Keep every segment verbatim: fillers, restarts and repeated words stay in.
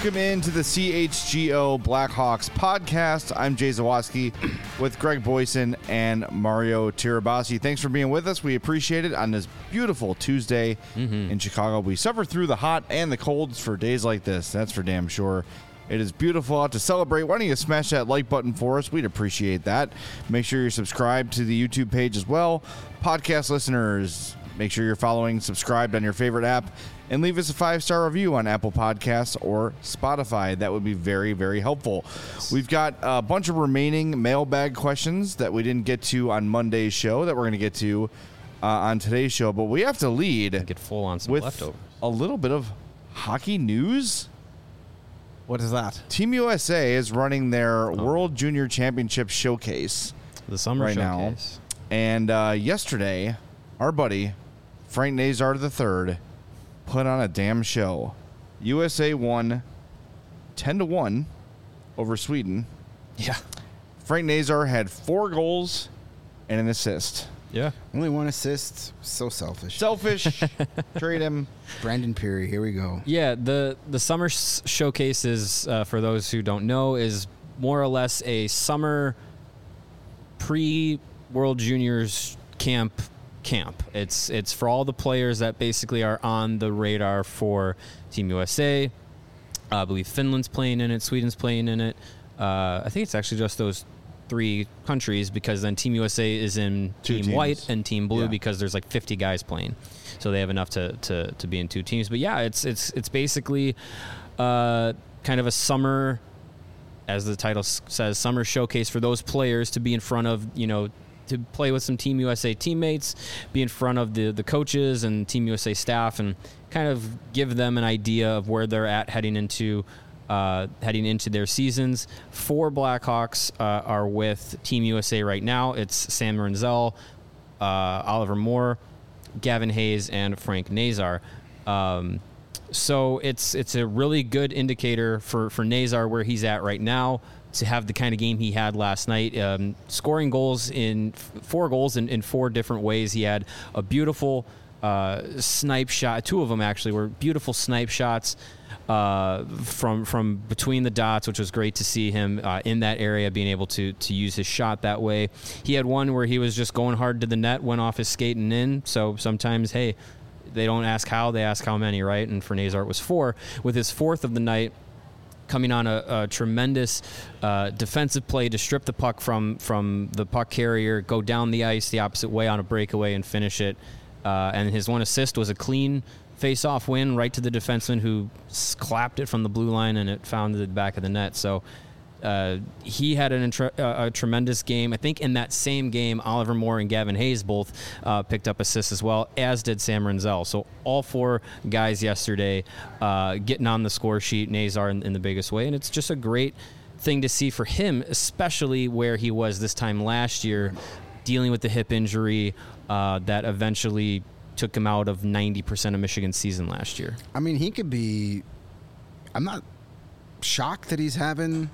Welcome into the C H G O Blackhawks podcast. I'm Jay Zawaski with Greg Boyson and Mario Tirabassi. Thanks for being with us. We appreciate it on this beautiful Tuesday mm-hmm. in Chicago. We suffer through the hot and the colds for days like this. That's for damn sure. It is beautiful out to celebrate. Why don't you smash that like button for us? We'd appreciate that. Make sure you're subscribed to the YouTube page as well. Podcast listeners, make sure you're following, subscribed on your favorite app, and leave us a five-star review on Apple Podcasts or Spotify. That would be very, very helpful. We've got a bunch of remaining mailbag questions that we didn't get to on Monday's show that we're going to get to uh, on today's show, but we have to lead get full on some with leftovers. A little bit of hockey news. What is that? Team U S A is running their oh. World Junior Championship Showcase. The summer right showcase. Now. And uh, yesterday, our buddy, Frank Nazar the third, put on a damn show. U S A won ten to one over Sweden. Yeah. Frank Nazar had four goals and an assist. Yeah. Only one assist. So selfish. Selfish. Trade him. Brandon Peary, here we go. Yeah, the, the summer s- showcase is, uh, for those who don't know, is more or less a summer pre-World Juniors camp camp. It's it's for all the players that basically are on the radar for Team U S A. Uh, I believe Finland's playing in it. Sweden's playing in it. Uh, I think it's actually just those three countries, because then Team U S A is in two Team teams. White and Team Blue, Yeah. because there's like fifty guys playing, so they have enough to, to, to be in two teams. But yeah, it's it's it's basically uh, kind of a summer, as the title s- says, summer showcase for those players to be in front of, you know, to play with some Team U S A teammates, be in front of the, the coaches and Team U S A staff, and kind of give them an idea of where they're at heading into uh, heading into their seasons. Four Blackhawks uh, are with Team U S A right now. It's Sam Renzel, uh, Oliver Moore, Gavin Hayes, and Frank Nazar. Um, so it's it's a really good indicator for, for Nazar where he's at right now, to have the kind of game he had last night, um, scoring goals in four goals in, in four different ways. He had a beautiful uh, snipe shot. Two of them actually were beautiful snipe shots uh, from from between the dots, which was great to see him uh, in that area, being able to to use his shot that way. He had one where he was just going hard to the net, went off his skate and in. So sometimes, hey, they don't ask how, they ask how many, right? And for Nazar, it was four. With his fourth of the night, coming on a, a tremendous uh, defensive play to strip the puck from from the puck carrier, go down the ice the opposite way on a breakaway and finish it. Uh, and his one assist was a clean face-off win right to the defenseman, who s- clapped it from the blue line, and it found the back of the net. So uh, he had an intre- uh, a tremendous game. I think in that same game, Oliver Moore and Gavin Hayes both uh, picked up assists as well, as did Sam Renzel. So all four guys yesterday uh, getting on the score sheet, Nazar in, in the biggest way. And it's just a great thing to see for him, especially where he was this time last year, dealing with the hip injury uh, that eventually took him out of ninety percent of Michigan's season last year. I mean, he could be... I'm not shocked that he's having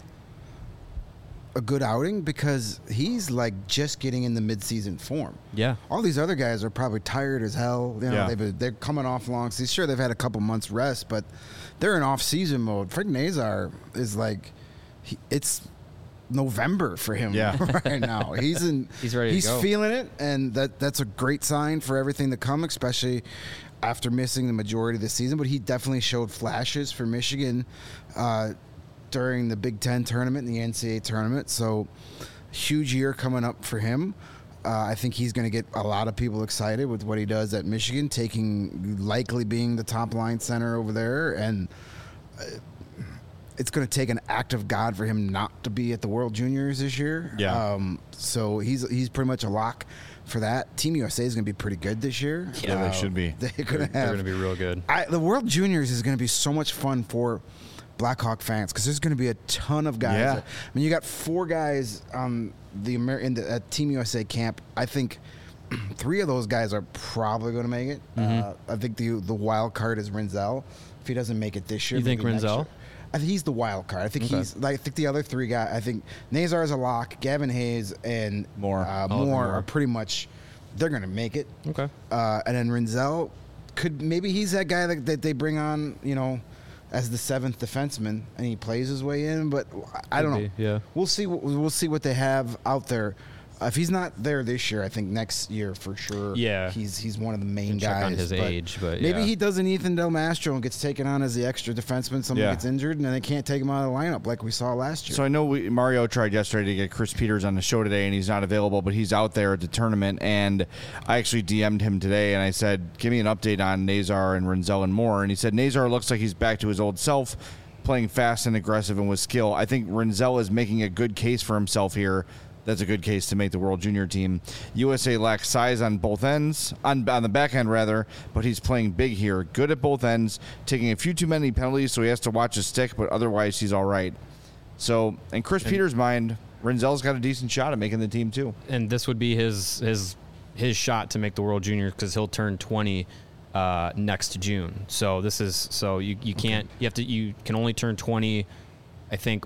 a good outing, because he's like just getting in the mid-season form. Yeah. All these other guys are probably tired as hell. You know, Yeah. they've been, they're coming off long seasons. Sure, they've had a couple months rest, but they're in off-season mode. Frank Nazar is like, he, it's November for him Yeah. right now. He's in. He's ready to He's go. feeling it, and that that's a great sign for everything to come, especially after missing the majority of the season. But he definitely showed flashes for Michigan uh, during the Big Ten tournament and the N C double A tournament. So huge year coming up for him. Uh, I think he's going to get a lot of people excited with what he does at Michigan, taking likely being the top line center over there. And uh, it's going to take an act of God for him not to be at the World Juniors this year. Yeah. Um, so he's he's pretty much a lock for that. Team U S A is going to be pretty good this year. Yeah, they should be. They're going to have. They're going to be real good. I, the World Juniors is going to be so much fun for Blackhawk fans, because there's going to be a ton of guys. Yeah. I mean, you got four guys on the Amer- in the at Team U S A camp. I think three of those guys are probably going to make it. Mm-hmm. Uh, I think the the wild card is Renzel. If he doesn't make it this year, You think maybe next Renzel? year. I think he's the wild card. I think Okay. he's like I think the other three guys. I think Nazar is a lock. Gavin Hayes and Moore. uh, Oliver Moore, Moore. are pretty much they're going to make it. Okay. Uh, and then Renzel could maybe he's that guy that, that they bring on, you know, as the seventh defenseman, and he plays his way in. But I don't Could know. be, yeah. We'll see. What, we'll see what they have out there. Uh, if he's not there this year, I think next year for sure. Yeah. he's he's one of the main Check guys. on his but age, but maybe yeah. he does an Ethan Del Mastro and gets taken on as the extra defenseman. Somebody Yeah. gets injured, and then they can't take him out of the lineup like we saw last year. So I know we, Mario tried yesterday to get Chris Peters on the show today, and he's not available, but he's out there at the tournament. And I actually D M'd him today, and I said, "Give me an update on Nazar and Renzel and Moore." And he said, "Nazar looks like he's back to his old self, playing fast and aggressive and with skill. I think Renzel is making a good case for himself here. That's a good case to make the World Junior team. U S A lacks size on both ends, on, on the back end rather, but he's playing big here. Good at both ends, taking a few too many penalties, so he has to watch his stick, but otherwise he's all right." So, in Chris Peters' mind, Renzel's got a decent shot at making the team too. And this would be his his his shot to make the World Junior because he'll turn twenty uh, next June. So this is so you you can't you have to you can only turn twenty, I think.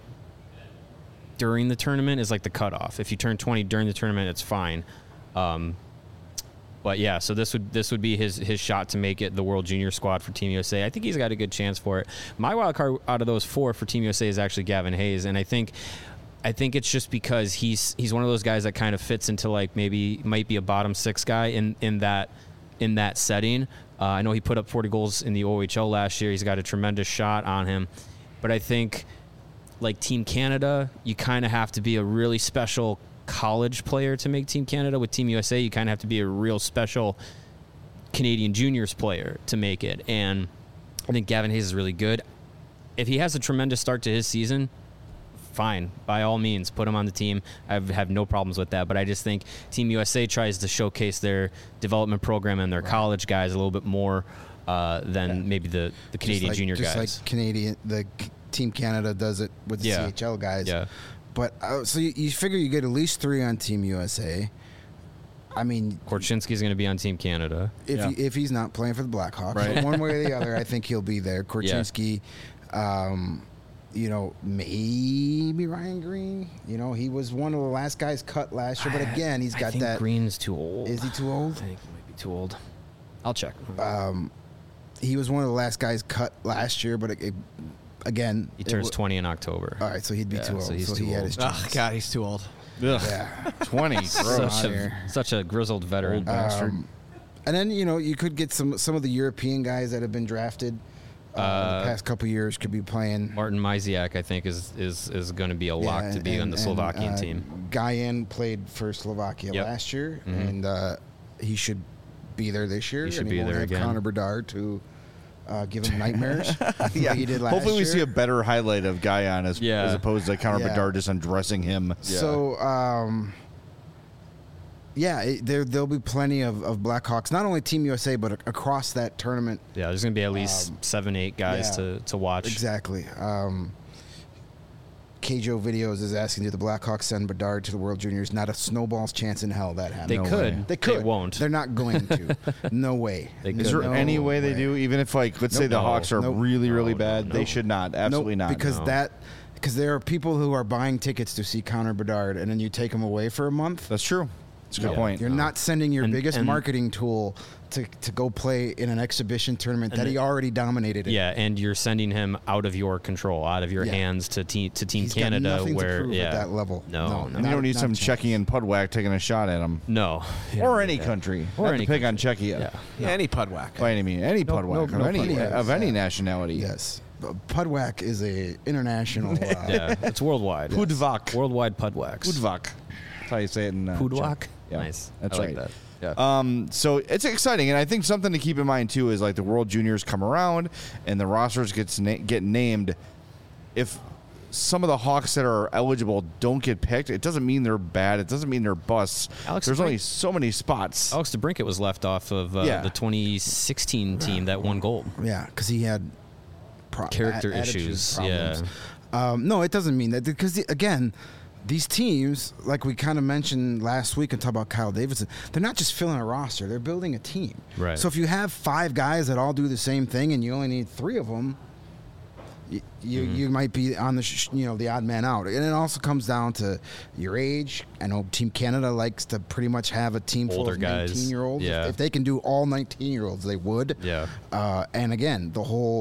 During the tournament is like the cutoff. If you turn twenty during the tournament, it's fine. Um, but yeah, so this would this would be his his shot to make it the World Junior squad for Team U S A. I think he's got a good chance for it. My wild card out of those four for Team U S A is actually Gavin Hayes, and I think I think it's just because he's he's one of those guys that kind of fits into like maybe might be a bottom six guy in in that in that setting. Uh, I know he put up forty goals in the O H L last year. He's got a tremendous shot on him, but I think. Like Team Canada, you kind of have to be a really special college player to make Team Canada. With Team U S A, you kind of have to be a real special Canadian juniors player to make it. And I think Gavin Hayes is really good. If he has a tremendous start to his season, fine. By all means, put him on the team. I have no problems with that. But I just think Team U S A tries to showcase their development program and their right. college guys a little bit more uh, than yeah. maybe the, the Canadian like, junior just guys. Just like Canadian, the Team Canada does it with the yeah. C H L guys. Yeah. But uh, so you, you figure you get at least three on Team U S A. I mean, Korchinski's going to be on Team Canada if yeah. he, if he's not playing for the Blackhawks. Right. But one way or the other, I think he'll be there. Korchinski, yeah. um, you know, maybe Ryan Green. You know, he was one of the last guys cut last year. But again, he's got I think that. Green's too old. Is he too old? I think he might be too old. I'll check. Um, he was one of the last guys cut last year, but it, it, again, he turns it, twenty in October. All right, so he'd be yeah, too old. So, he's so too he had old. his Oh chance. God, he's too old. Ugh. Yeah, twenty. Gross. Such a, such a grizzled veteran. Old bastard. Um, and then you know you could get some some of the European guys that have been drafted uh, uh, the past couple years could be playing. Martin Myziak, I think, is is, is going to be a lock yeah, to be and, on the and, Slovakian uh, team. Guyan played for Slovakia Yep. last year, Mhm. and uh, he should be there this year. He should and be won't there have again. Connor Bedard to uh, give him nightmares. yeah. like he did last Hopefully, we year. see a better highlight of Guyan as, Yeah. as opposed to Connor Yeah. Bedard just undressing him. So, um, yeah, it, there there'll be plenty of, of Blackhawks, not only Team U S A, but a, across that tournament. Yeah, there's going to be at least Um, seven, eight guys yeah. to, to watch. Exactly. Um, K J O Videos is asking, do the Blackhawks send Bedard to the World Juniors? Not a snowball's chance in hell that happens. They No could. way. They could. won't. They're not going to. No way. They Is there could. No any way they way. do? Even if, like, let's say Nope. the No. Hawks are Nope. really, really No, bad, no, they no. should not. Absolutely Nope, not. Because no. that, because there are people who are buying tickets to see Connor Bedard, and then you take him away for a month. That's true. That's a good Yeah. point. You're not sending your And- biggest and- marketing tool to, to go play in an exhibition tournament And that the- he already dominated. In. Yeah, and you're sending him out of your control, out of your Yeah. hands to te- to Team He's got Canada, nothing where to prove yeah, at that level. No, no, And you not- don't need not some a chance. Czechia and Pudwhack taking a shot at him. no, You Or don't any need that. country. Or Not any to pick country. on Czechia. Yeah, Yeah, any pudwhack. By any means. Any No, Pudwhack no, of, no any, Pudwhack. of any Yeah. nationality. Yes. But Pudwhack is a international. Uh, yeah, it's worldwide. Pudvak. Worldwide Pudwacks. Pudvak. That's how you say it in uh, Pudwak. Czech. Yeah, Nice. That's I like right. that. Yeah. Um, so it's exciting, and I think something to keep in mind too is like the World Juniors come around and the rosters gets na- get named. If some of the Hawks that are eligible don't get picked, it doesn't mean they're bad. It doesn't mean they're busts. Alex There's Brink- only so many spots. Alex DeBrincat was left off of uh, Yeah. the twenty sixteen team that won gold. yeah, because he had pro- Character a- attitude issues, problems. Um, no, it doesn't mean that because the, again, these teams, like we kind of mentioned last week and talked about Kyle Davidson, they're not just filling a roster; they're building a team. Right. So if you have five guys that all do the same thing and you only need three of them, you you, Mm-hmm. you might be on the sh- you know the odd man out, and it also comes down to your age. I know Team Canada likes to pretty much have a team full Older of guys. nineteen year olds. Yeah. If, if they can do all nineteen year olds, they would. Yeah. Uh, and again, the whole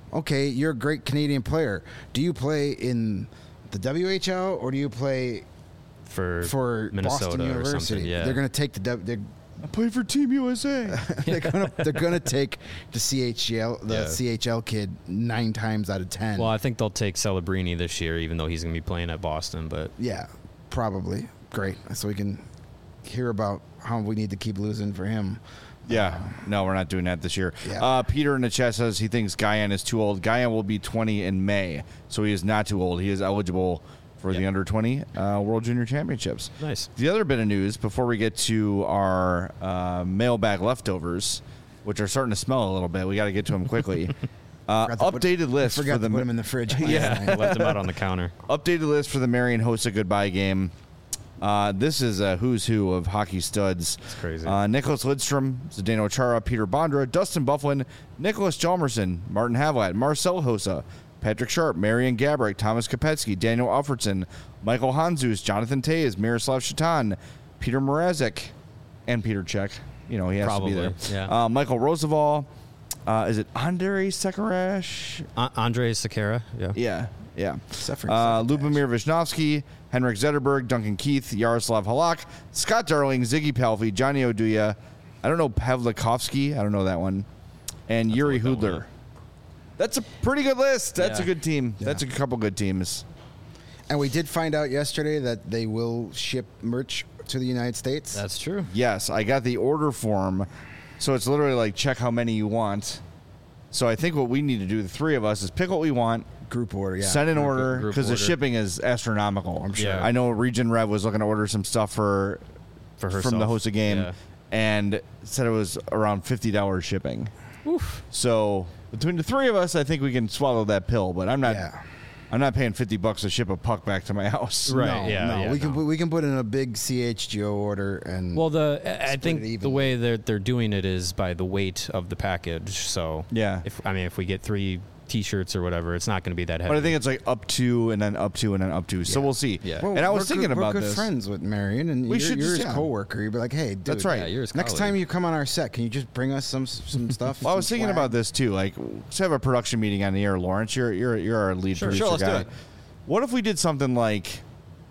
okay, you're a great Canadian player. Do you play in the W H L or do you play for for Minnesota Boston or University? something. Yeah. They're going to take the W- they're, I play for Team U S A. they're gonna they're gonna take the C H L the Yeah. C H L kid nine times out of ten. Well, I think they'll take Celebrini this year, even though he's going to be playing at Boston. But yeah, probably. Great. So we can hear about how we need to keep losing for him. Yeah, no, we're not doing that this year. Yeah. Uh, Peter in the chat says he thinks Guyan is too old. Guyan will be twenty in May, so he is not too old. He is eligible for the Yep. under twenty uh, World Junior Championships. nice. The other bit of news before we get to our uh, mailbag leftovers, which are starting to smell a little bit, we got to get to them quickly. Uh, Forgot to put- updated list Forgot for the to put him in the fridge. Yeah, left him out on the counter. updated list for the Marion Hossa goodbye game. Uh, this is a who's who of hockey studs. It's crazy. Uh, Nicholas Lidstrom, Zdeno Chara, Peter Bondra, Dustin Bufflin, Nicholas Chalmerson, Martin Havlat, Marcel Hossa, Patrick Sharp, Marian Gabrick, Thomas Kopetsky, Daniel Alfredson, Michael Hanzus, Jonathan Tays, Miroslav Shatan, Peter Mrazek, and Peter Cech. You know, he has Probably, to be there. yeah. Uh, Michael Roosevelt. Uh, is it Andrei Sekarash? A- Andre Sakara. Yeah. Yeah, yeah. Suffering Uh, second Lubomir Visnovsky, Henrik Zetterberg, Duncan Keith, Yaroslav Halak, Scott Darling, Ziggy Palffy, Johnny Oduya. I don't know Pavlikovsky. I don't know that one. And Yuri look that one Hudler. up. That's a pretty good list. That's Yeah. a good team. Yeah. That's a couple good teams. And we did find out yesterday that they will ship merch to the United States. That's true. Yes, I got the order form. So it's literally like check how many you want. So I think what we need to do, the three of us, is pick what we want, Group order, yeah. send an Group- order group because the order. shipping is astronomical. I'm sure. Yeah. I know Region Rev was looking to order some stuff for For herself. from the Hossa game, Yeah. and said it was around fifty dollars shipping. Oof. So between the three of us, I think we can swallow that pill. But I'm not. Yeah. I'm not paying fifty bucks to ship a puck back to my house. Right. No, yeah, no, yeah, we no. can put, we can put in a big C H G O order and Well, the I- I Split think it the evenly. way they're they're doing it is by the weight of the package. So Yeah. if I mean if we get three T-shirts or whatever, it's not going to be that heavy. But I think it's like up to and then up to and then up to. So Yeah. we'll see. Yeah. Well, and I was we're thinking good, about we're good this. friends with Marion, and We you're, should you're just- his yeah. coworker. You'd be like, hey, dude, That's right. Yeah, you're his next colleague. time you come on our set, can you just bring us some some stuff? Well, I was some thinking swag? about this too. Like, let's have a production meeting on the air, Lawrence. You're you're you're our lead Sure, producer sure, let's do guy. it. What if we did something like,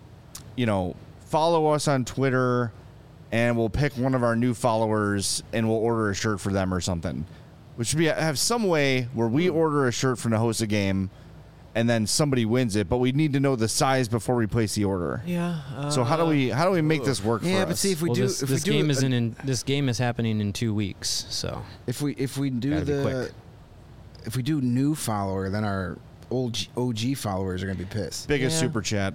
you know, follow us on Twitter, and we'll pick one of our new followers, and we'll order a shirt for them or something. Which should be have some way where we order a shirt from the host of game, and then somebody wins it. But we need to know the size before we place the order. Yeah. Uh, So how do we how do we make this work? Yeah, for but us? see if we well, do this, if this we do game a- is in, in this game is happening in two weeks. So if we if we do Gotta be the quick. if we do new follower, then our old G, O G followers are gonna be pissed. biggest Yeah. super chat.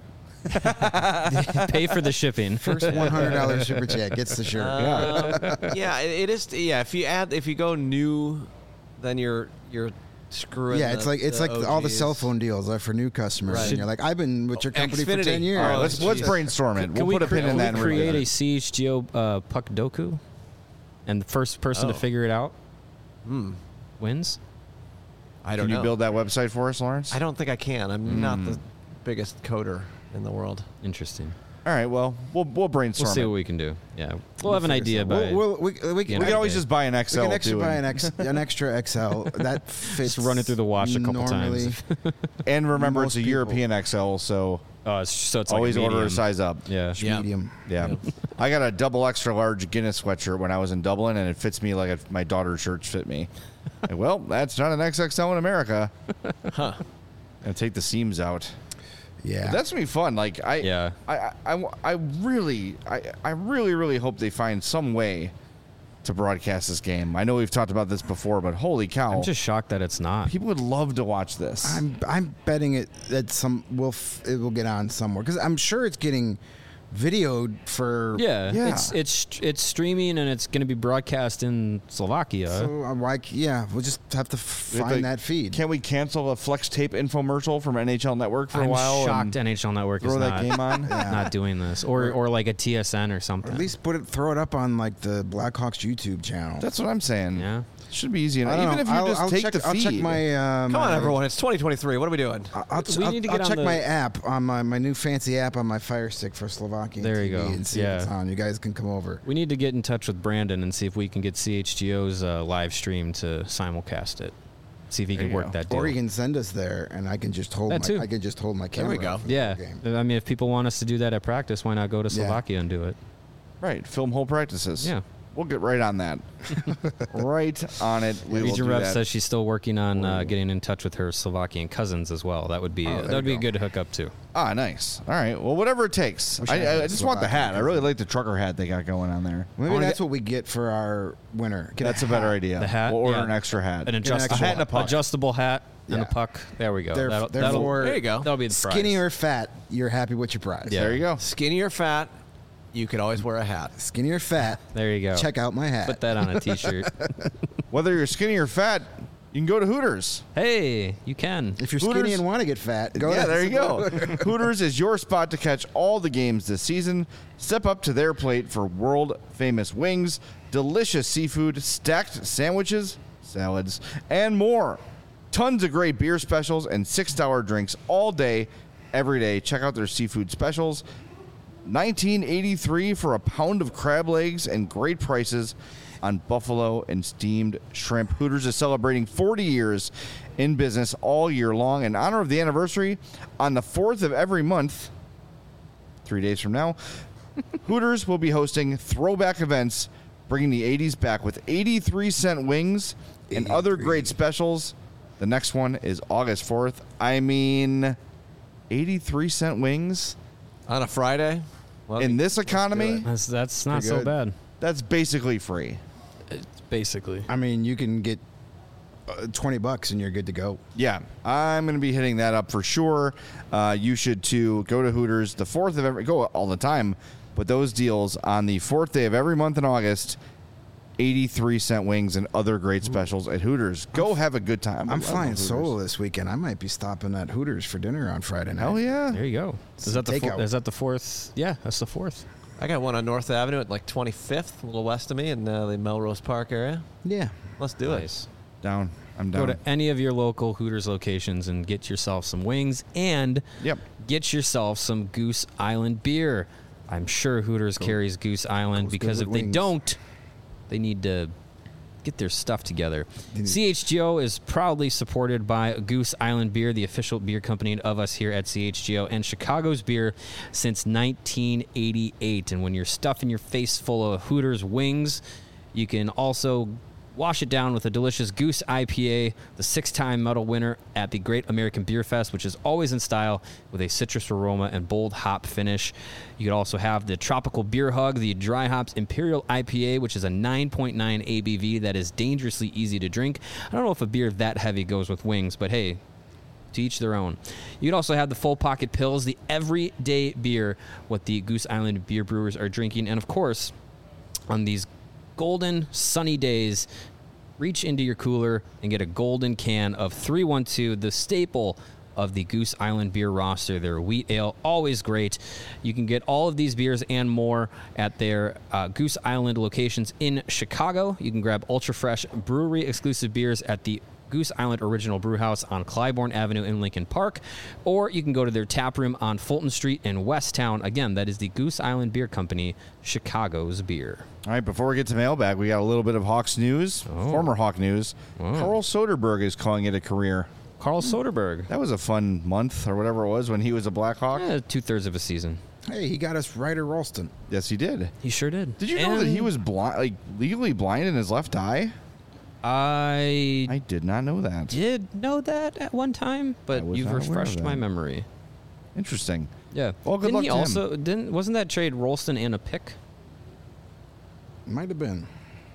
pay for the shipping. First one hundred dollars super chat gets the shirt. Um, yeah, it, it is. Yeah, if you add, if you go new, then you're you're screwing. Yeah, it's the- like it's the like all the O Gs. cell phone deals are for new customers, Right. and you're like, I've been with your company for Xfinity. ten years. All right, Oh, let's let's Jesus. brainstorm it. Can We'll we put a cre- pin in can that. we and create revisit a it. C H G O uh, puck doku, and the first person to Oh. figure it out Hmm. wins. I don't Can you know. build that website for us, Lawrence? I don't think I can. I'm not Hmm. the biggest coder in the world. Interesting. All right. Well, we'll we'll brainstorm. We'll see it. what we can do. Yeah, we'll have an idea by. We'll, we'll, we, we, we, Yeah, We can always Okay. just buy an we Excel can extra too, buy and, an, X, an extra X L that fits. run it through the wash a couple normally. times. and remember it's most a people- European X L, so Oh, it's, so it's like always a order a medium. size up. Yeah. Yeah. Medium. Yeah. I got a double extra large Guinness sweatshirt when I was in Dublin, and it fits me like it, my daughter's shirts fit me. Like, well, that's not an X X L in America. Huh. And take the seams out. Yeah. But that's gonna be fun. Like I, Yeah. I, I, I, I really, I, I really, really hope they find some way to broadcast this game. I know we've talked about this before, but holy cow! I'm just shocked that it's not. people would love to watch this. I'm I'm betting it that some will f- it will get on somewhere because I'm sure it's getting videoed for Yeah, Yeah. It's it's it's streaming and it's going to be broadcast in Slovakia. So I'm like, yeah, we'll just have to f- If find they- that feed. Can we cancel a Flex Tape infomercial from N H L Network for I'm a while? shocked and N H L Network throw is that not, game on. Yeah. not doing this, or or like a T S N or Or something. at least put it, throw it up on like the Blackhawks YouTube channel. That's what I'm saying. yeah. Should be easy I enough. don't Even know. if you I'll, just I'll take check, the I'll feed. check my. Uh, Come my, on, everyone. It's twenty twenty-three. What are we doing? I'll, I'll, We I'll- need to I'll get on check the- my app on my, my new fancy app on my Fire Stick for Slovakia. There you T V go. And see Yeah. if it's on. You guys can come over. We need to get in touch with Brandon and see if we can get C H G O's uh, live stream to simulcast it. See if he There can you work go. that deal. Or you can send us there, and I can just hold That my too. I can just hold my camera. we go. up for the Yeah, game. I mean, if people want us to do that at practice, why not go to Yeah. Slovakia and do it? Right. Film whole practices. Yeah. We'll get right on that. right on it. We will Region do Rep that. says she's still working on uh, getting in touch with her Slovakian cousins as well. That would be Oh, there that would you be a go. good hook up too. Ah, nice. All right. Well, whatever it takes. Wish I I, had I, I a just want the Slovakian hat. I really like the trucker hat they got going on there. Maybe wanna that's get- what we get for our winner. Get That's a better hat. idea. The hat, We'll order yeah. an extra hat. An adjustable extra hat and a puck. adjustable hat and a Yeah. puck. There we go. There- that'll, therefore- that'll, There you go. That'll be the prize. Skinny or fat, you're happy with your prize. Yeah. There you go. Skinny or fat, you could always wear a hat. Skinny or fat, There you go. check out my hat. Put that on a T-shirt. Whether you're skinny or fat, you can go to Hooters. Hey, you can. If you're Hooters- skinny and want to get fat, go yeah, to there you go. Hooters is your spot to catch all the games this season. Step up to their plate for world famous wings, delicious seafood, stacked sandwiches, salads, and more. Tons of great beer specials and six dollar drinks all day, every day. Check out their seafood specials. nineteen eighty-three for a pound of crab legs and great prices on buffalo and steamed shrimp. Hooters is celebrating forty years in business all year long. In honor of the anniversary, on the fourth of every month, three days from now, Hooters will be hosting throwback events, bringing the eighties back with eighty-three cent wings and other eighty-three. great specials. The next one is August fourth. I mean, eighty-three cent wings On a Friday? Well, in this economy, That's that's not Pretty so good. bad. that's basically free. Basically. I mean, you can get uh, twenty bucks and you're good to go. Yeah, I'm going to be hitting that up for sure. Uh, you should too. Go to Hooters the fourth of every, go all the time, but those deals on the fourth day of every month in August, eighty-three cent wings and other great specials at Hooters. Go have a good time. I I'm love flying Hooters. solo this weekend. I might be stopping at Hooters for dinner on Friday night. Hell yeah. There you go. Is Some that the four, takeout. is that the fourth? Yeah, that's the fourth. I got one on North Avenue at like twenty-fifth, a little west of me in uh, the Melrose Park area. Yeah. Let's do Nice. Down. I'm Go down. to any of your local Hooters locations and get yourself some wings and Yep. get yourself some Goose Island beer. I'm sure Hooters carries Goose Island goes good because with if they wings. don't, they need to get their stuff together. C H G O is proudly supported by Goose Island Beer, the official beer company of us here at C H G O, and Chicago's beer since nineteen eighty-eight. And when you're stuffing your face full of Hooters wings, you can also wash it down with a delicious Goose I P A, the six-time medal winner at the Great American Beer Fest, which is always in style with a citrus aroma and bold hop finish. You could also have the Tropical Beer Hug, the Dry Hops Imperial I P A, which is a nine point nine A B V that is dangerously easy to drink. I don't know if a beer that heavy goes with wings, but hey, to each their own. You can also have the Full Pocket Pills, the everyday beer, what the Goose Island beer brewers are drinking. And of course, on these golden sunny days, reach into your cooler and get a golden can of three one two, the staple of the Goose Island beer roster. Their wheat ale, always great. You can get all of these beers and more at their uh, Goose Island locations in Chicago. You can grab ultra fresh brewery exclusive beers at the Goose Island Original Brew House on Clybourne Avenue in Lincoln Park, or you can go to their tap room on Fulton Street in Westtown. Again, that is the Goose Island Beer Company, Chicago's beer. All right, before we get to mailbag, we got a little bit of Hawks news, former Hawk news. Carl Soderberg is calling it a career. Carl Soderberg. That was a fun month or whatever it was when he was a Blackhawk. Eh, two-thirds of a season. Hey, he got us Ryder Ralston. Yes, he did. He sure did. Did you know that he was blind, like legally blind in his left eye? I I did not know that. did know that at one time, but was you've not aware of refreshed my that. memory. Interesting. Yeah. Well, good didn't luck he to him. also didn't wasn't that trade Rolston and a pick? Might have been.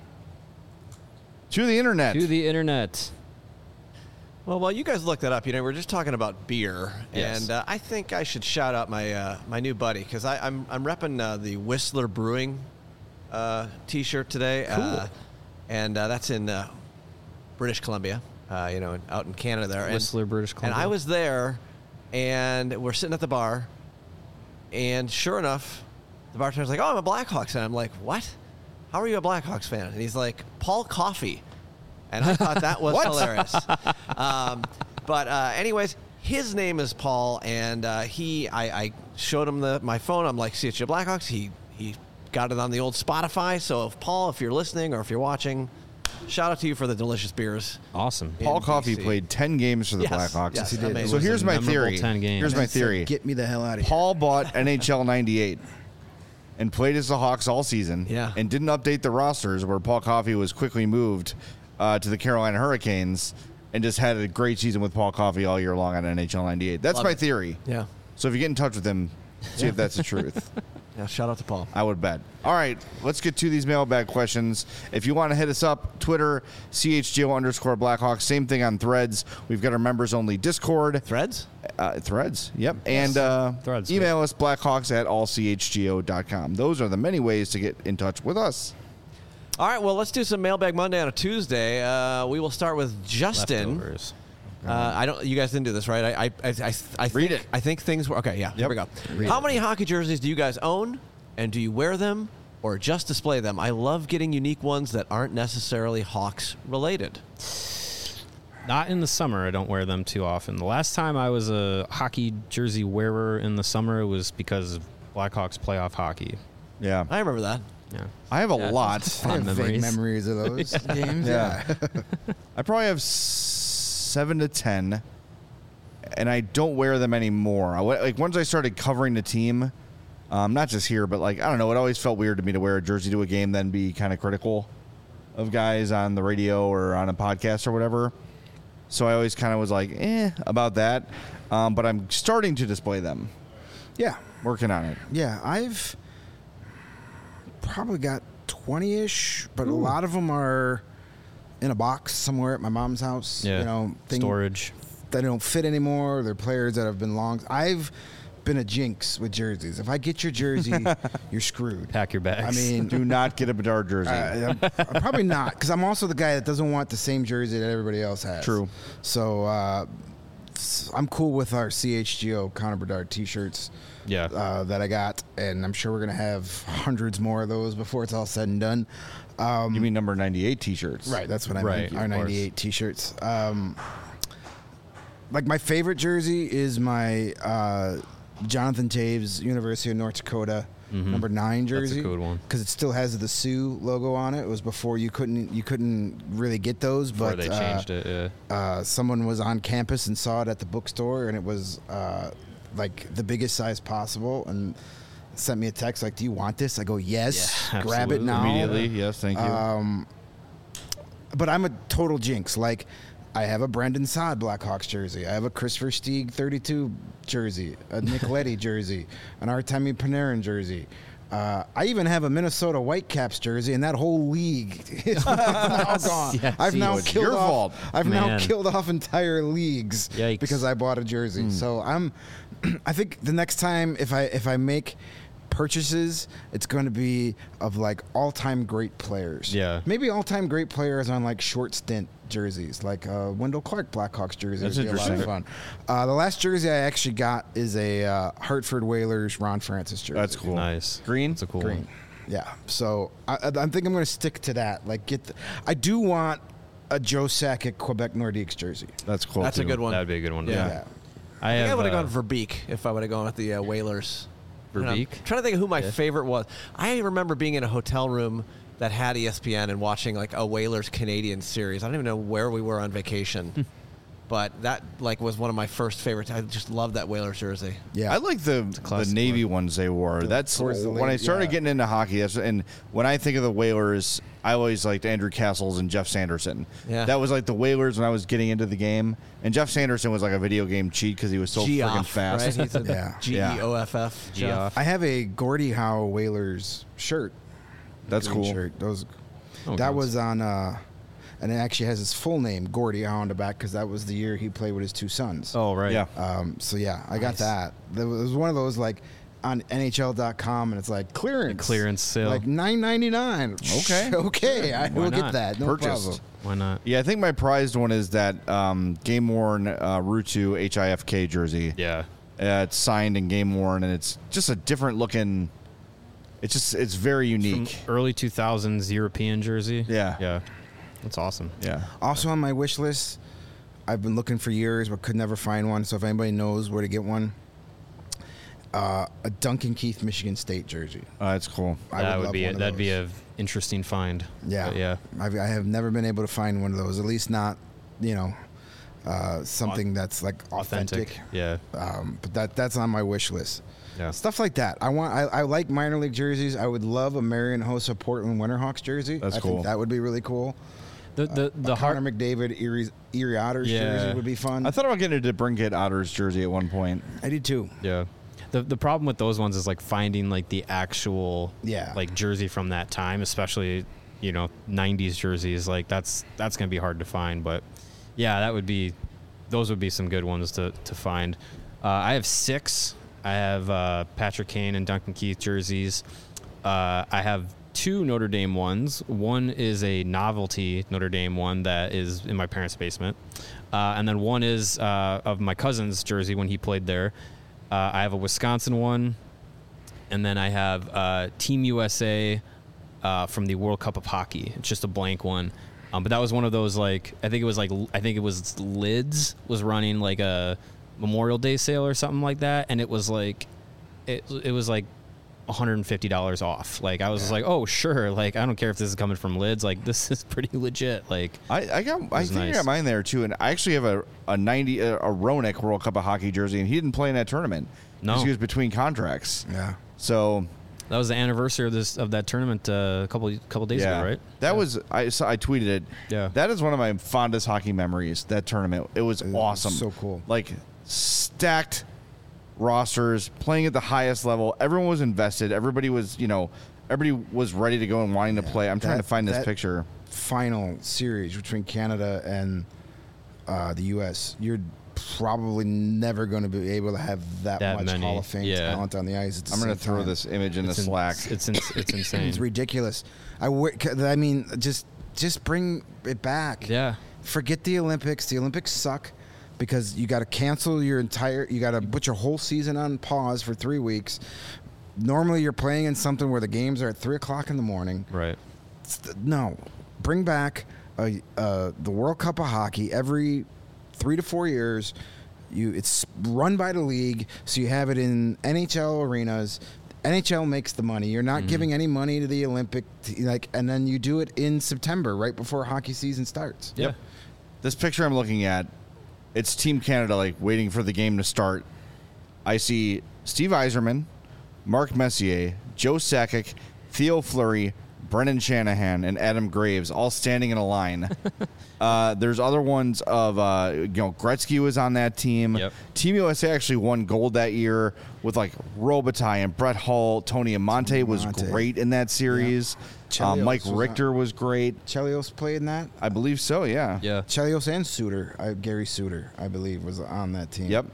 To the internet. To the internet. Well, while you guys look that up, you know, we're just talking about beer, Yes. and uh, I think I should shout out my uh, my new buddy because I'm I'm repping uh, the Whistler Brewing uh, T-shirt today, Cool. uh, and uh, that's in uh, British Columbia, uh, you know, out in Canada there. And- Whistler, British And Columbia. I was there, and we're sitting at the bar, and sure enough, the bartender's like, "Oh, I'm a Blackhawks fan." I'm like, "What? How are you a Blackhawks fan?" And he's like, "Paul Coffey." And I thought that was hilarious. Um, but uh, anyways, his name is Paul, and uh, he, I, I showed him the my phone. I'm like, "C H G O Blackhawks." He he got it on the old Spotify. So if Paul, if you're listening or if you're watching, shout out to you for the delicious beers. Awesome. in Paul Coffey D C. played ten games for the Yes, Blackhawks. yes, Yes, he did. amazing. So It was here's a my memorable theory. ten games. Here's my I said, theory. Get me the hell out of here. Paul bought N H L ninety-eight and played as the Hawks all season. Yeah. And didn't update the rosters where Paul Coffey was quickly moved uh, to the Carolina Hurricanes and just had a great season with Paul Coffey all year long on N H L ninety-eight. That's Love my it. theory. Yeah. So if you get in touch with him, see if that's the truth. Yeah. Shout out to Paul. I would bet. All right, let's get to these mailbag questions. If you want to hit us up, Twitter, C H G O underscore Blackhawks. Same thing on Threads. We've got our members-only Discord. Threads? Uh, threads, yep. And uh, Threads, email us, blackhawks at all c h g o dot com. Those are the many ways to get in touch with us. All right. Well, let's do some Mailbag Monday on a Tuesday. Uh, we will start with Justin. Leftovers. Uh, I don't. You guys didn't do this, right? I, I, I, I, I think, Read it. I think things were okay. Yeah. Here we go. Read How it. many hockey jerseys do you guys own, and do you wear them, or just display them? I love getting unique ones that aren't necessarily Hawks related. Not in the summer. I don't wear them too often. The last time I was a hockey jersey wearer in the summer was because of Blackhawks playoff hockey. Yeah. I remember that. Yeah. I have a Yeah, lot. I Fond have vague memories. memories of those games. Yeah. Yeah. I probably have seven to ten, and I don't wear them anymore. I, like once I started covering the team, um, not just here, but like I don't know, it always felt weird to me to wear a jersey to a game, then be kind of critical of guys on the radio or on a podcast or whatever. So I always kind of was like, eh, about that. Um, but I'm starting to display them. Yeah. Working on it. Yeah, I've probably got twenty-ish, but a lot of them are in a box somewhere at my mom's house. Yeah. You know, thing- Storage. They don't fit anymore. They're players that have been long. I've been a jinx with jerseys. If I get your jersey, you're screwed. Pack your bags. I mean, Do not get a Bedard jersey. Uh, I'm, I'm probably not, because I'm also the guy that doesn't want the same jersey that everybody else has. True. So uh, s- I'm cool with our C H G O Connor Bedard T-shirts yeah. uh, that I got, and I'm sure we're gonna have hundreds more of those before it's all said and done. Um, you mean number ninety-eight T-shirts? Right, that's what I Right, meant. Our of course. ninety-eight T-shirts. Um, like my favorite jersey is my uh, Jonathan Taves University of North Dakota number nine jersey. That's a good one. because it still has the Sioux logo on it. It was before you couldn't you couldn't really get those, Before but they uh, changed it. Yeah. uh, someone was on campus and saw it at the bookstore, and it was uh, like the biggest size possible, and sent me a text like, "Do you want this?" I go, "Yes, Yeah, grab it absolutely. now." Immediately, yes, thank you. Um, but I'm a total jinx. Like, I have a Brendan Saad Blackhawks jersey. I have a Christopher Stieg thirty-two jersey, a Nick Leddy jersey, an Artemi Panarin jersey. Uh, I even have a Minnesota Whitecaps jersey, and that whole league is now gone. Yeah, I've see, now it's killed your off. fault. I've now Man. killed off entire leagues Yikes. because I bought a jersey. So I'm. I think the next time if I if I make purchases, it's going to be of like all-time great players. Yeah. Maybe all-time great players on like short stint jerseys, like uh, Wendell Clark Blackhawks jersey. That's would be a lot of interesting. fun. Uh, the last jersey I actually got is a uh, Hartford Whalers Ron Francis jersey. That's cool. Nice. Green? That's a cool Green. one. Yeah. So I, I I think I'm going to stick to that. Like, get. The, I do want a Joe Sakic Quebec Nordiques jersey. That's cool. That's a too. good one. That'd be a good one. Yeah. Yeah. Yeah. I I think have. I would have uh, gone Verbeek if I would have gone with the uh, Whalers. And I'm Verbeek? trying to think of who my Yeah. favorite was. I remember being in a hotel room that had E S P N and watching like a Whalers Canadian series. I don't even know where we were on vacation, but that like was one of my first favorites. I just love that Whalers jersey. Yeah. I like the the classic Navy one. ones they wore. The- That's towards the when I late- started yeah. getting into hockey. That's and when I think of the Whalers, I always liked Andrew Castles and Jeff Sanderson. Yeah. that was like the Whalers when I was getting into the game. And Jeff Sanderson was like a video game cheat because he was so freaking Geoff, fast. right? He's a Yeah. G E O F F. Geoff. I have a Gordie Howe Whalers shirt. That's Green cool. Shirt. Those. Oh, that good. was on. Uh, and it actually has his full name, Gordie Howe, on the back because that was the year he played with his two sons. Oh right. Yeah. Um, so yeah, I got Nice. that. There was, it was one of those like on N H L dot com, and it's like clearance, clearance sale. like nine ninety-nine. Okay. okay, I Why will get not? that. No Purchased. problem. Why not? Yeah, I think my prized one is that um, game worn uh, Rutu H I F K jersey. Yeah. Uh, it's signed and game worn, and it's just a different looking. It's just it's very From unique. early two thousands European jersey. Yeah. Yeah. That's awesome. Yeah. Also on my wish list, I've been looking for years but could never find one. So if anybody knows where to get one, uh, a Duncan Keith Michigan State jersey. Uh, that's cool. I that would, love be one a, of that'd be those. a interesting find. Yeah, But yeah. I've, I have never been able to find one of those. At least not, you know, uh, something that's like authentic. Yeah. Um, but that that's on my wish list. Yeah. Stuff like that. I want. I, I like minor league jerseys. I would love a Marion Hossa Portland Winterhawks jersey. That's I cool. Think that would be really cool. The the the a heart. Connor McDavid Erie, Erie Otters Yeah. jersey would be fun. I thought about getting a DeBrincat Otters jersey at one point. I did too. Yeah. The the problem with those ones is like finding like the actual Yeah. like jersey from that time, especially, you know, nineties jerseys. Like that's that's gonna be hard to find. But yeah, that would be those would be some good ones to to find. Uh, I have six. I have uh, Patrick Kane and Duncan Keith jerseys. Uh, I have two Notre Dame ones. One is a novelty Notre Dame one that is in my parents' basement, uh, and then one is uh, of my cousin's jersey when he played there. Uh, I have a Wisconsin one, and then I have uh, Team U S A uh, from the World Cup of Hockey. It's just a blank one, um, but that was one of those like I think it was like I think it was Lids was running like a Memorial Day sale or something like that, and it was like it it was like one hundred fifty dollars off. Like I was just like, oh sure, like I don't care if this is coming from Lids, like this is pretty legit. Like I, I got I was think I nice. got mine there too, and I actually have a a ninety a, a Roenick World Cup of Hockey jersey, and he didn't play in that tournament. No. Because he was between contracts. Yeah. So that was the anniversary of this of that tournament uh, a couple couple days yeah, ago, right? that Yeah. was I saw, I tweeted it. Yeah. that is one of my fondest hockey memories. That tournament, it was was awesome, so cool. Like stacked rosters, playing at the highest level. Everyone was invested. Everybody was, you know, everybody was ready to go and wanting to play. I'm trying That- to find this that- picture. Final series between Canada and uh, the U S. You're probably never going to be able to have that, That much many, Hall of Fame yeah. talent on the ice. At the I'm going same to throw time. this image in It's the in- Slack. It's in, it's insane. It's ridiculous. I, w- I mean, just just bring it back. Yeah. Forget the Olympics. The Olympics suck because you got to cancel your entire. You got to put your whole season on pause for three weeks. Normally, you're playing in something where the games are at three o'clock in the morning. Right. No, bring back a, uh, the World Cup of Hockey every three to four years. You, it's run by the league, so you have it in N H L arenas. N H L makes the money. You're not Mhm. giving any money to the Olympic, like, and then you do it in September, right before hockey season starts. Yeah. This picture I'm looking at, it's Team Canada, like waiting for the game to start. I see Steve Yzerman, Mark Messier, Joe Sakic, Theo Fleury, Brendan Shanahan, and Adam Graves all standing in a line. uh, there's other ones of, uh, you know, Gretzky was on that team. Yep. Team U S A actually won gold that year with like Robitaille and Brett Hull. Tony Amonte was Amonte. great in that series. Yeah. Uh, Mike Chelios was Richter was great. Chelios played in that. I believe so, yeah. Yeah. Chelios and Suter, I, Gary Suter, I believe, was on that team. Yep.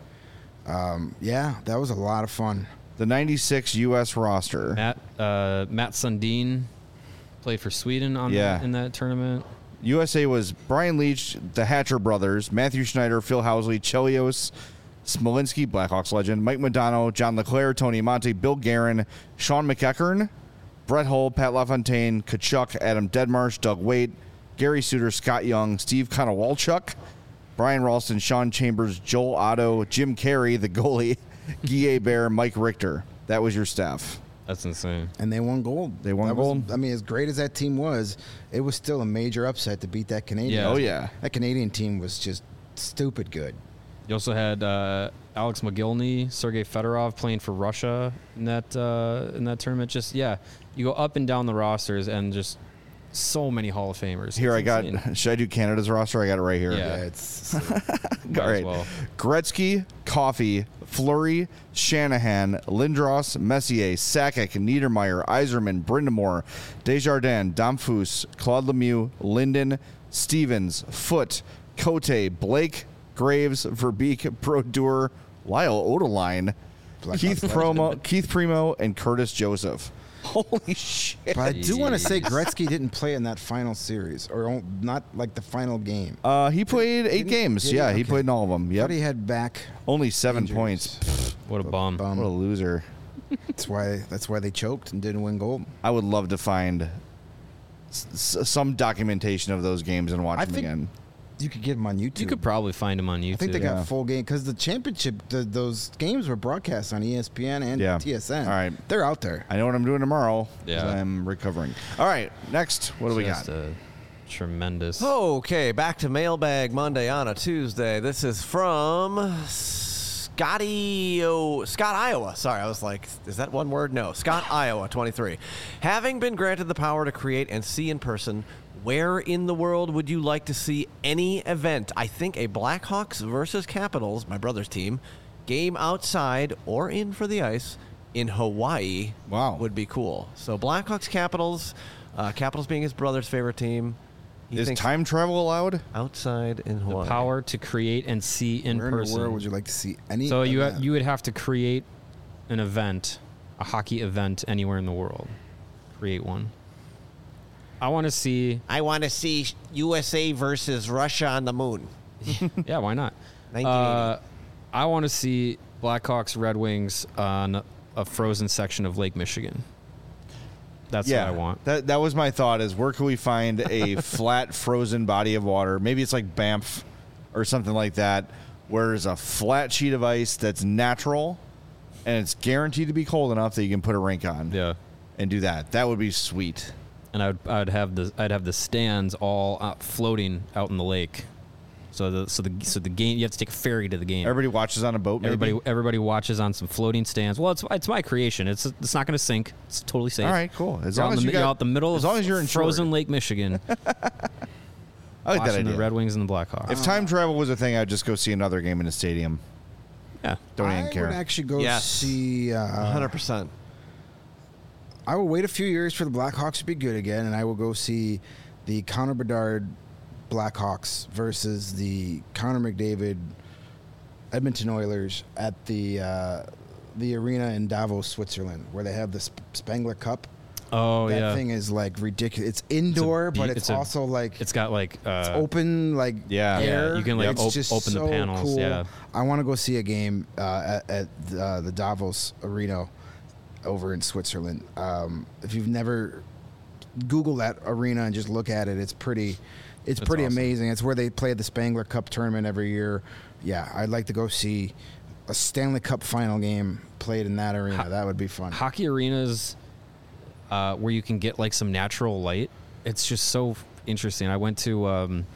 Um, yeah, that was a lot of fun. The ninety-six U S roster. Matt uh, Matt Sundin played for Sweden on Yeah. that, in that tournament. U S A was Brian Leach, the Hatcher brothers, Matthew Schneider, Phil Housley, Chelios, Smolinski, Blackhawks legend, Mike Modano, John LeClaire, Tony Amonte, Bill Guerin, Sean McEachern, Brett Hull, Pat LaFontaine, Kachuk, Adam Deadmarsh, Doug Waite, Gary Suter, Scott Young, Steve Konowalchuk, Brian Ralston, Sean Chambers, Joel Otto, Jim Carey, the goalie, Guy Bear, Mike Richter. That was your staff. That's insane. And they won gold. They won That was- gold? I mean, as great as that team was, it was still a major upset to beat that Canadian. Yeah. Oh, yeah. That Canadian team was just stupid good. You also had uh, Alex Mogilny, Sergei Fedorov playing for Russia in that uh, in that tournament. Just yeah, you go up and down the rosters and just so many Hall of Famers. Here It's I got, insane. should I do Canada's roster? I got it right here. Yeah. Yeah, it's Might All as right. well. Gretzky, Coffey, Fleury, Shanahan, Lindros, Messier, Sakic, Niedermeyer, Yzerman, Brindamore, Desjardins, Domfus, Claude Lemieux, Linden, Stevens, Foote, Cote, Blake, Graves, Verbeek, Brodeur, Lyle Odeline, Blackhawks Keith legend. Promo, Keith Primo, and Curtis Joseph. Holy shit. But I do want to say Jeez. Gretzky didn't play in that final series, or on- not like the final game. Uh, he played eight Didn't- games. did he? Yeah, he Okay. played in all of them. But Yep. he had back. Only seven injuries. points. What a bum. Bum. What a loser. That's why. That's why they choked and didn't win gold. I would love to find s- s- some documentation of those games and watch I them think- again. You could get them on YouTube. You could probably find them on YouTube. I think they Yeah. got full game because the championship, the, those games were broadcast on E S P N and Yeah. T S N. All right. They're out there. I know what I'm doing tomorrow. 'Cause Yeah. I'm recovering. All right, next, what do we Just got? a tremendous. Okay, back to Mailbag Monday on a Tuesday. This is from Scotty, oh, Scott, Iowa. Sorry, I was like, is that one word? No. Scott, Iowa, twenty-three. Having been granted the power to create and see in person, where in the world would you like to see any event? I think a Blackhawks versus Capitals, my brother's team, game outside or in for the ice in Hawaii Wow. would be cool. So Blackhawks, Capitals, uh, Capitals being his brother's favorite team. He Is thinks time travel allowed? outside in Hawaii. Power to create and see in Where person. in the world would you like to see any? so you event? you would have to create an event, a hockey event anywhere in the world. Create one. I want to see. I want to see U S A versus Russia on the moon. Yeah, why not? nineteen eighty. Uh, I want to see Blackhawks Red Wings on a frozen section of Lake Michigan. That's yeah, what I want. That that was my thought. Is where can we find a flat, frozen body of water? Maybe it's like Banff or something like that, where there's a flat sheet of ice that's natural, and it's guaranteed to be cold enough that you can put a rink on. Yeah. and do that. That would be sweet. And I would I'd have the I'd have the stands all out floating out in the lake. So the so the so the game you have to take a ferry to the game. Everybody watches on a boat. Maybe? Everybody everybody watches on some floating stands. Well, it's it's my creation. It's it's not going to sink. It's totally safe. All right, cool. As You're long out as in you the, you're got out the middle as of long as you're insured. frozen Lake Michigan, I like that watching idea. the Red Wings and the Blackhawks. If time travel was a thing, I'd just go see another game in the stadium. Yeah, Don't I even care. would actually go Yes. see. one Uh, hundred percent. I will wait a few years for the Blackhawks to be good again, and I will go see the Connor Bedard Blackhawks versus the Connor McDavid Edmonton Oilers at the uh, the arena in Davos, Switzerland, where they have the Sp- Spengler Cup. Oh that yeah. thing is like ridiculous. It's indoor, be- but it's, it's a- also like It's got like uh, it's open, like Yeah. Yeah, air. you can, like, It's op- just open the so panels, Cool. yeah. I want to go see a game uh, at, at uh, the Davos Arena over in Switzerland. Um, if you've never Google that arena and just look at it, it's pretty. It's That's pretty awesome. amazing. It's where they play the Spengler Cup tournament every year. Yeah, I'd like to go see a Stanley Cup final game played in that arena. Ho- that would be fun. hockey arenas uh, where you can get like some natural light. It's just so interesting. I went to um,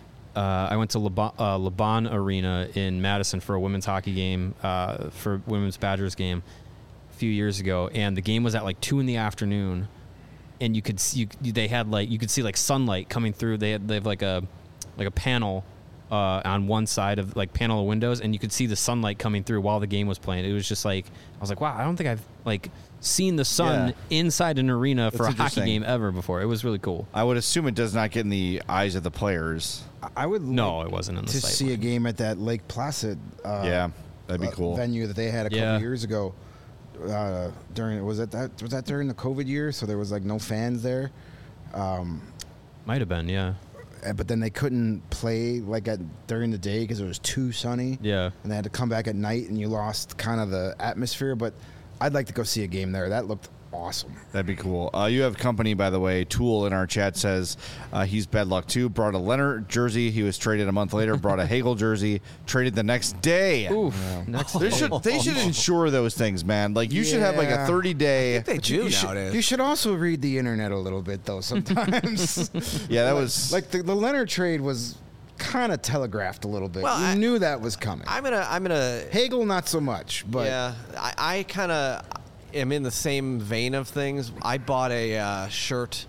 uh, I went to Leban, uh, Leban Arena in Madison for a women's hockey game uh, for women's Badgers game a few years ago, and the game was at like two in the afternoon, and you could see you, they had like you could see like sunlight coming through. They had they have like a like a panel. Uh, on one side of like panel of windows, and you could see the sunlight coming through while the game was playing. It was just like I was like, wow, I don't think I've like seen the sun Yeah. inside an arena for That's a hockey interesting. game ever before. It was really cool. I would assume it does not get in the eyes of the players. I would No, like it wasn't in the to sight see a line. game at that Lake Placid. Uh, yeah, that'd be uh, cool. venue that they had a couple Yeah. years ago. Uh, during was that that was that during the COVID year? So there was like no fans there. Um, Might have been, yeah, uh, but then they couldn't play like at during the day because it was too sunny. yeah. And they had to come back at night, and you lost kind of the atmosphere. But I'd like to go see a game there. That looked awesome. That'd be cool. Uh, you have company, by the way. Tool in our chat says uh, he's bad luck too. Brought a Leonard jersey. He was traded a month later. Brought a Hagel jersey. Traded the next day. Oof. Next They day. should they should insure those things, man. Like you should have like a Yeah. thirty day. They do you should, nowadays. you should also read the internet a little bit though. Sometimes, Yeah, that was like the, the Leonard trade was kind of telegraphed a little bit. Well, you I- knew that was coming. I'm gonna. I'm gonna. Hagel, not so much, but yeah, I, I kind of am in the same vein of things. I bought a uh, shirt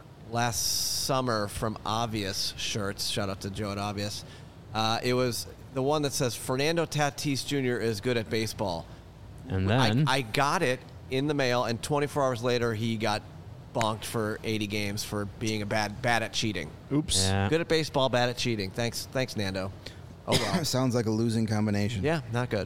last summer from Obvious Shirts. Shout out to Joe at Obvious. Uh, it was the one that says Fernando Tatis Junior is good at baseball. And then I, I got it in the mail, and twenty-four hours later, he got bonked for eighty games for being a bad bad at cheating. oops. yeah. Good at baseball, bad at cheating. Thanks, thanks, Nando. Oh well. sounds like a losing combination. Yeah, not good.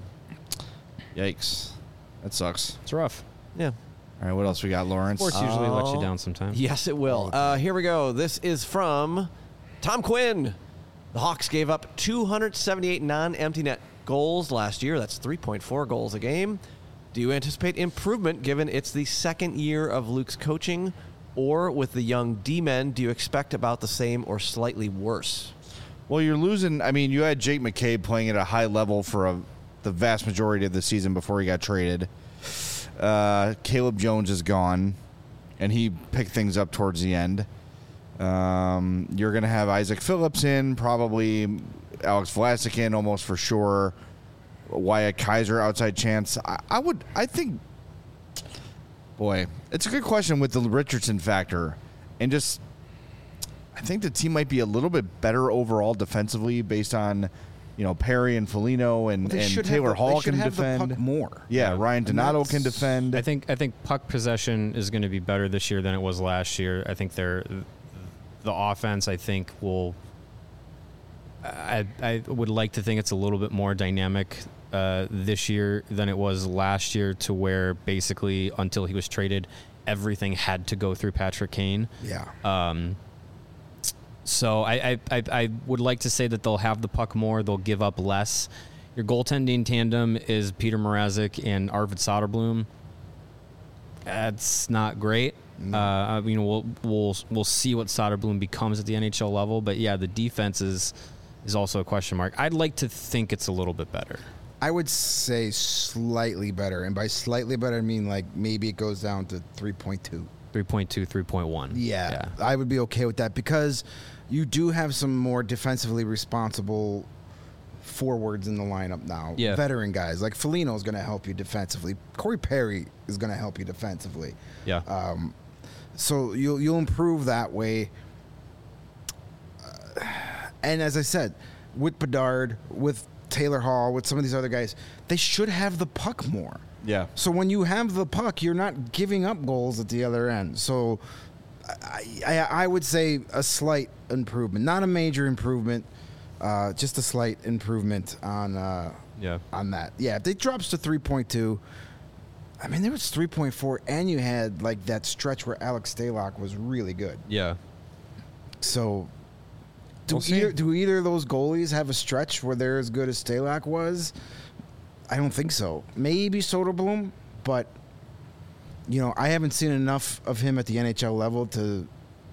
Yikes. That sucks. It's rough. Yeah. All right, what else we got, Lawrence? Sports usually let you Oh. down sometimes. Yes, it will. Uh, here we go. This is from Tom Quinn. The Hawks gave up two hundred seventy-eight non-empty net goals last year. That's three point four goals a game. Do you anticipate improvement given it's the second year of Luke's coaching? Or with the young D-men, do you expect about the same or slightly worse? Well, you're losing. I mean, you had Jake McCabe playing at a high level for a, the vast majority of the season before he got traded. Uh, Caleb Jones is gone, and he picked things up towards the end. Um, you're going to have Isaac Phillips in, probably Alex Vlasic in, almost for sure. Wyatt Kaiser, outside chance. I, I would. I think. Boy, it's a good question with the Richardson factor, and just. I think the team might be a little bit better overall defensively based on, you know, Perry and Foligno and, They and should Taylor have the, Hall they should can have defend. the puck more. Yeah, Yeah. Ryan And Donato that's- can defend. I think I think puck possession is going to be better this year than it was last year. I think they're the offense. I think will. I I would like to think it's a little bit more dynamic uh, this year than it was last year, to where basically until he was traded, everything had to go through Patrick Kane. Yeah. Um, so I, I, I, I would like to say that they'll have the puck more. They'll give up less. Your goaltending tandem is Peter Mrazek and Arvid Soderblom. That's not great. Uh, I mean, we'll we'll we'll see what Soderblom becomes at the N H L level. But yeah, the defense is is also a question mark. I'd like to think it's a little bit better. I would say slightly better, and by slightly better, I mean like maybe it goes down to three point two. three point two, three point one. Yeah, I would be okay with that because you do have some more defensively responsible forwards in the lineup now. Yeah. Veteran guys like Foligno is going to help you defensively. Corey Perry is going to help you defensively. Yeah. Um, so you'll you'll improve that way. Uh, and as I said, with Bedard, with Taylor Hall, with some of these other guys, they should have the puck more. yeah. So when you have the puck, you're not giving up goals at the other end. So I, I, I would say a slight improvement, not a major improvement, uh, just a slight improvement on uh, Yeah. on that. Yeah, if it drops to three point two, I mean, there was three point four, and you had like that stretch where Alex Stalock was really good. Yeah. So do, We'll see. either, do either of those goalies have a stretch where they're as good as Stalock was? I don't think so. Maybe Soderblom, but you know, I haven't seen enough of him at the N H L level to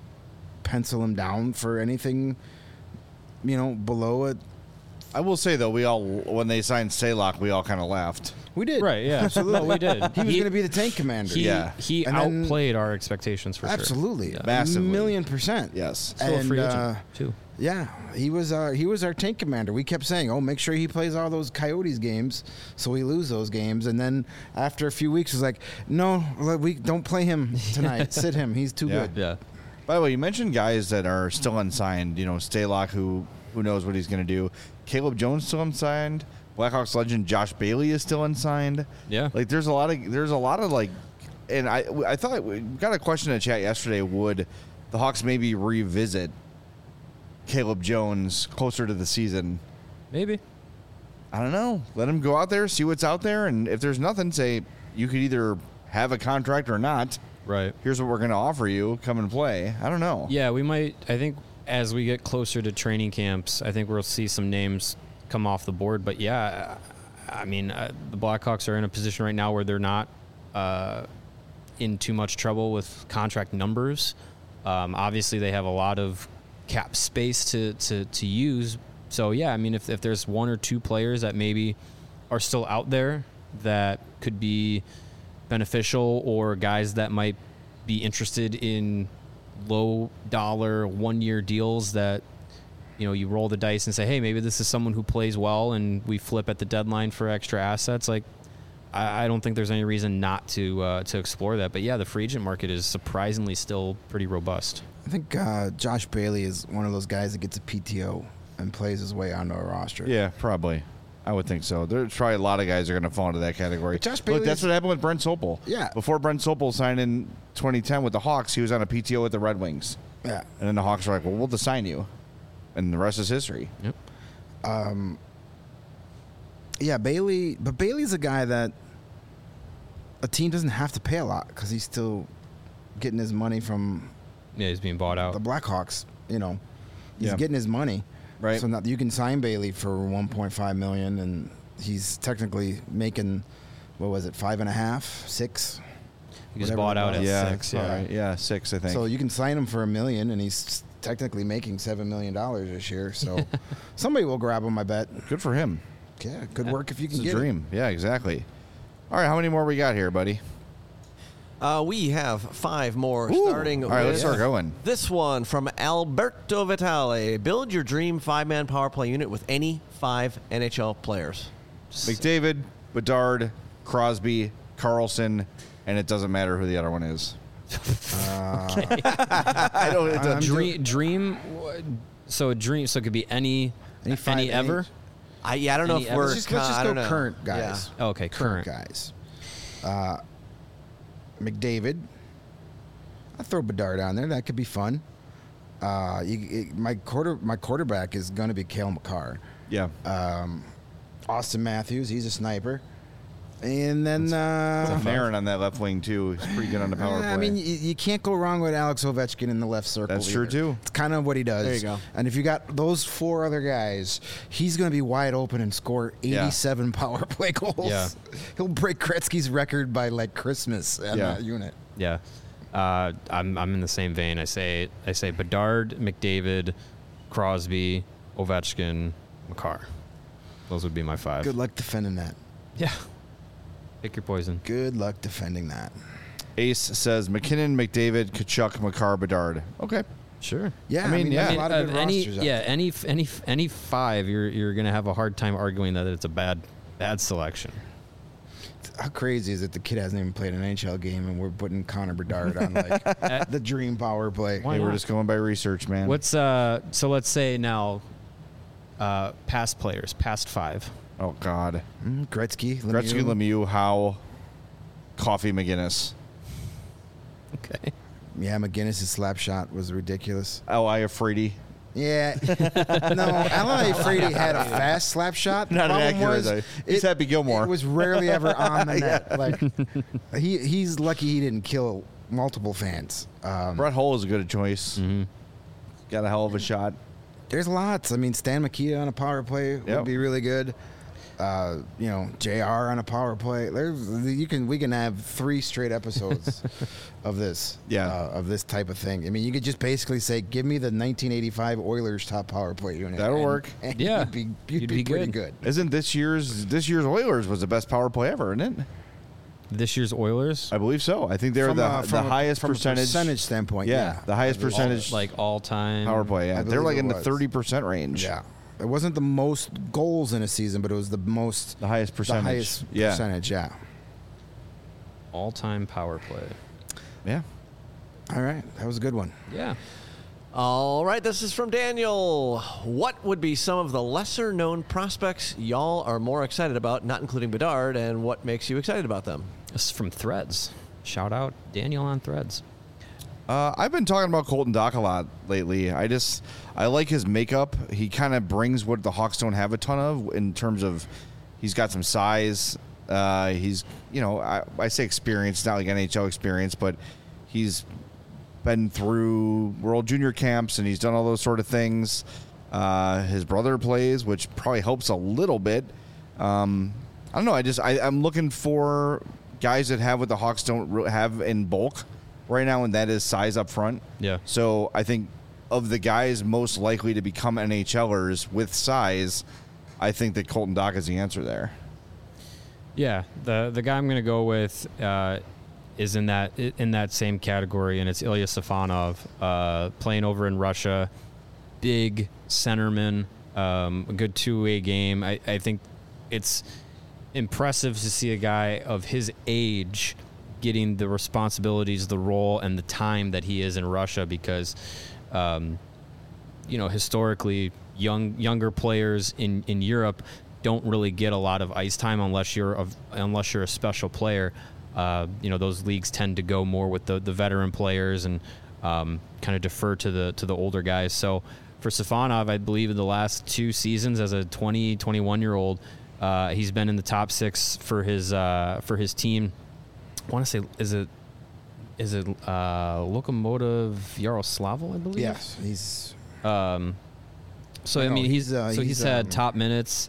pencil him down for anything, you know, below it. I will say though, we all when they signed Stalock, we all kind of laughed. We did. Right, yeah. Absolutely. No, we did. He was He- going to be the tank commander. He, Yeah. he And then- outplayed our expectations for Absolutely. sure. Massively. A million percent. Yes. Still a free And, agent, uh, too. Yeah, he was our he was our tank commander. We kept saying, "Oh, make sure he plays all those Coyotes games, so we lose those games." And then after a few weeks, it was like, "No, we don't play him tonight. Sit him. He's too Yeah. good." Yeah. By the way, you mentioned guys that are still unsigned. You know, Stalock, who who knows what he's going to do. Caleb Jones still unsigned. Blackhawks legend Josh Bailey is still unsigned. Yeah. Like there's a lot of there's a lot of like, and I I thought we got a question in the chat yesterday. Would the Hawks maybe revisit Caleb Jones closer to the season? Maybe. I don't know. Let him go out there, see what's out there, and if there's nothing, say you could either have a contract or not. Right. Here's what we're going to offer you. Come and play. I don't know. Yeah, we might. I think as we get closer to training camps, I think we'll see some names come off the board. But yeah, I mean, uh, the Blackhawks are in a position right now where they're not uh, in too much trouble with contract numbers. Um, obviously, they have a lot of cap space to, to, to use. So, yeah, I mean, if, if there's one or two players that maybe are still out there that could be beneficial, or guys that might be interested in low dollar one year deals that, you know, you roll the dice and say, hey, maybe this is someone who plays well and we flip at the deadline for extra assets. Like, I, I don't think there's any reason not to uh, to explore that. But yeah, the free agent market is surprisingly still pretty robust. I think uh, Josh Bailey is one of those guys that gets a P T O and plays his way onto a roster. Yeah, probably. I would think so. There's probably a lot of guys that are going to fall into that category. But Josh Look, Bailey that's is- what happened with Brent Sopel. Yeah. Before Brent Sopel signed in twenty ten with the Hawks, he was on a P T O with the Red Wings. Yeah. And then the Hawks were like, well, we'll just sign you. And the rest is history. Yep. Yeah, Bailey, but Bailey's a guy that a team doesn't have to pay a lot because he's still getting his money from Yeah, he's being bought out. the Blackhawks. You know, he's Yeah. getting his money. Right. So now you can sign Bailey for one point five million, and he's technically making what was it, five and a half, six. He was whatever bought it out was. at yeah, six. all Yeah. right. Yeah, six, I think. So you can sign him for a million, and he's technically making seven million dollars this year. So somebody will grab him, I bet. Good for him. Yeah, good work if you can It's a get dream. Yeah, exactly. All right, how many more we got here, buddy? Uh, we have five more, Ooh. starting All right, with let's start going. this one from Alberto Vitale. Build your dream five-man power play unit with any five N H L players. McDavid, Bedard, Crosby, Carlson, and it doesn't matter who the other one is. I don't. It I'm doesn't. Dream, dream. So a dream. So it could be any, Any any, five ever. Ns? I, yeah, I don't know Any if ever- we're. Let's just, let's con- just I go don't know. current guys. Oh, okay, Current current. guys. Uh, McDavid. I'll throw Bedard on there. That could be fun. Uh, you, it, my quarter my quarterback is going to be Cale Makar. Yeah. Um, Austin Matthews, he's a sniper. And then uh, Aaron on that left wing too. He's pretty good on the power play. I mean, you, you can't go wrong with Alex Ovechkin in the left circle. That's true, either. too. It's kind of what he does. There you go. And if you got those four other guys, he's going to be wide open and score Yeah. eighty-seven power play goals. Yeah. He'll break Gretzky's record by like Christmas in Yeah. that unit. Yeah, uh, I'm I'm in the same vein. I say I say Bedard, McDavid, Crosby, Ovechkin, Makar. Those would be my five. Good luck defending that. Yeah. Pick your poison. Good luck defending that. Ace says McKinnon, McDavid, Kachuk, Makar, Bedard. Okay. Sure. Yeah, I mean, there's yeah. a lot of Uh, good any rosters out yeah there. any any any five you're you're gonna have a hard time arguing that it's a bad bad selection. How crazy is it the kid hasn't even played an N H L game and we're putting Connor Bedard on like the dream power play? Why Hey, we're not? just going by research, man. What's uh so let's say now uh past players, past five. Oh God. Mm, Gretzky, Lemieux. Gretzky, Lemieux, Howe, Coffee, McGinnis. Okay. Yeah, McGinnis' slap shot was ridiculous. L I Frady. Yeah. No, L A Frady had a fast slap shot. The Not an problem accurate, was though. He's Happy Gilmore. It was rarely ever on the net. Like he he's lucky he didn't kill multiple fans. Um, Brett Hull is a good choice. Mm-hmm. Got a hell of a shot. there's lots. I mean, Stan Mikita on a power play Yep. would be really good. Uh, you know, J R on a power play. There's you can we can have three straight episodes of this. Yeah. uh, of this type of thing. I mean, you could just basically say, "Give me the nineteen eighty-five Oilers top power play unit." That'll and- work. and Yeah. you'd be, you'd You'd be be pretty good. good. Isn't this year's this year's Oilers was the best power play ever, isn't it? This year's Oilers, I believe so. I think they're From the, a- the from a- highest from a percentage. percentage standpoint. yeah, Yeah, the highest I believe- percentage like all time power play. Yeah, I they're believe like it in the was. thirty percent range. Yeah. It wasn't the most goals in a season, but it was the most the highest percentage. the highest yeah, percentage. Yeah. all time power play. yeah. All right, that was a good one. Yeah. All right, this is from Daniel. What would be some of the lesser known prospects y'all are more excited about, not including Bedard, and what makes you excited about them? This is from Threads. Shout out Daniel on Threads. Uh, I've been talking about Colton Dock a lot lately. I just I like his makeup. He kind of brings what the Hawks don't have a ton of in terms of he's got some size. Uh, he's you know I, I say experience, not like N H L experience, but he's been through World Junior camps and he's done all those sort of things. Uh, his brother plays, which probably helps a little bit. Um, I don't know. I just I, I'm looking for guys that have what the Hawks don't re- have in bulk right now, and that is size up front. Yeah. So I think of the guys most likely to become NHLers with size, I think that Colton Dock is the answer there. Yeah, the the guy I'm gonna go with uh, is in that in that same category, and it's Ilya Safonov, uh, playing over in Russia. Big centerman, um, a good two-way game. I, I think it's impressive to see a guy of his age getting the responsibilities, the role, and the time that he is in Russia, because, um, you know, historically, young younger players in, in Europe don't really get a lot of ice time unless you're a, unless you're a special player. Uh, you know, those leagues tend to go more with the, the veteran players and um, kind of defer to the to the older guys. So for Safonov, I believe in the last two seasons as a twenty, twenty-one year old, uh, he's been in the top six for his uh, for his team. I want to say, is it is it uh, Lokomotiv Yaroslavl, I believe? Yes, he's Um, so I No, mean, he's, he's, uh, so he's, he's, had um, top minutes.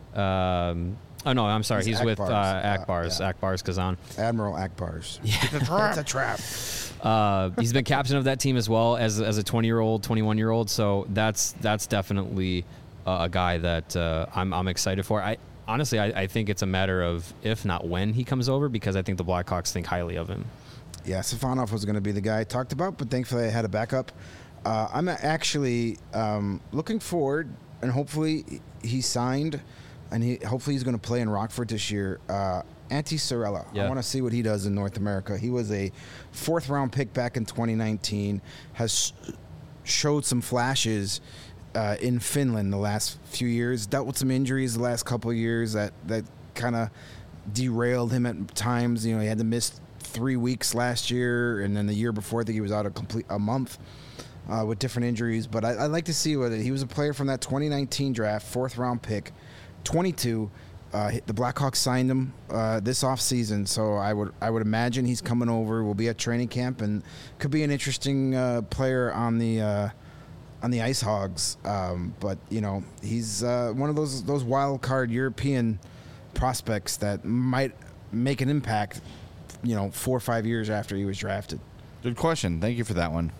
Um, oh no, I'm sorry. He's, He's with uh, Akbars. Uh, Akbars, yeah. Akbars Kazan. Admiral Akbars. Yeah, It's a trap. Uh, he's been captain of that team as well as as a twenty year old, twenty-one year old. So that's that's definitely uh, a guy that uh, I'm I'm excited for. I honestly I, I think it's a matter of if not when he comes over, because I think the Blackhawks think highly of him. Yeah, Safonov was going to be the guy I talked about, but thankfully I had a backup. Uh, I'm actually um, looking forward, and hopefully he signed, and he hopefully he's going to play in Rockford this year. Uh, Antti Sorella. Yeah. I want to see what he does in North America. He was a fourth round pick back in twenty nineteen, has showed some flashes uh, in Finland the last few years, dealt with some injuries the last couple of years that, that kind of derailed him at times. You know, he had to miss three weeks last year, and then the year before, I think he was out a complete a month uh, with different injuries. But I, I'd like to see whether he was a player from that twenty nineteen draft, fourth round pick, twenty-two. Uh, the Blackhawks signed him uh, this offseason, so I would I would imagine he's coming over. Will be at training camp and could be an interesting uh, player on the uh, on the Ice Hogs. Um, but you know, he's uh, one of those those wild card European prospects that might make an impact, you know, four or five years after he was drafted. Good question. Thank you for that one.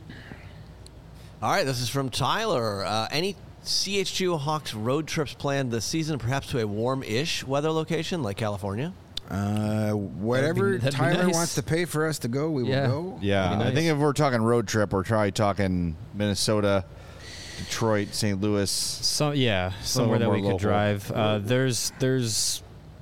All right, this is from Tyler. Uh, any C H G O Hawks road trips planned this season, perhaps to a warm-ish weather location like California? Uh, whatever that'd be Tyler nice. wants to pay for us to go, we Yeah. will go. Yeah, That'd be I think nice. if we're talking road trip, we're probably talking Minnesota, Detroit, Saint Louis. So yeah, somewhere that more we could local. drive. Uh, there's there's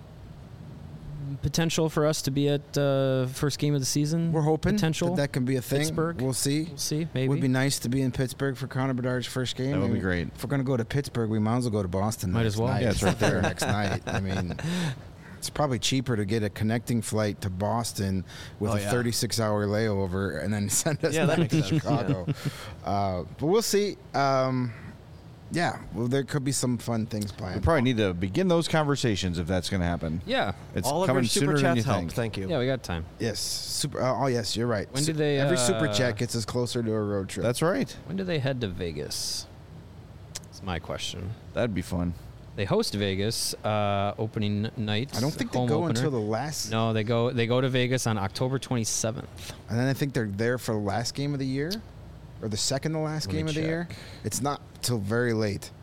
potential for us to be at uh, first game of the season. We're hoping potential that that can be a thing. Pittsburgh. We'll see. We'll see. Maybe. Would be nice to be in Pittsburgh for Connor Bedard's first game. That would I be mean, great. If we're going to go to Pittsburgh, we might as well go to Boston. Might next as well. Night. Yeah, it's right there. next night. I mean, it's probably cheaper to get a connecting flight to Boston with Oh, a yeah. thirty-six hour layover and then send us Yeah, that back makes to sense. Chicago. uh, but we'll see. Um, yeah, well, there could be some fun things We planned. probably need to begin those conversations if that's going to happen. Yeah. It's All of coming your super sooner than you chats helped. think. Thank you. Yeah, we got time. Yes, super. Uh, oh, yes, you're right. When Su- do they, Every super uh, chat gets us closer to a road trip. That's right. When do they head to Vegas? That's my question. That'd be fun. They host Vegas uh, opening night. I don't think they home go opener. until the last. No, they go. They go to Vegas on October twenty-seventh. And then I think they're there for the last game of the year, or the second to last Let me game of the year. check. It's not till very late.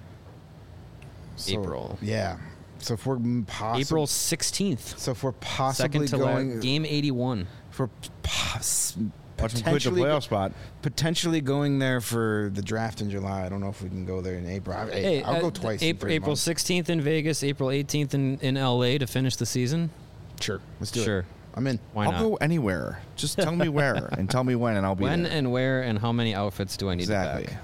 So, April. Yeah. So if we're possibly April sixteenth. so if we're possibly Second to la- going, game eighty-one. if we're pos- Watch them quit the potentially playoff spot. potentially going there for the draft in July. I don't know if we can go there in April. I, Hey, I'll uh, go twice. in April, three April months. sixteenth in Vegas, April eighteenth in, in L A to finish the season. Sure, let's do Sure. it. I'm in. Why I'll not? go anywhere. Just tell me where and tell me when, and I'll be When there. and where and how many outfits do I need Exactly. to back?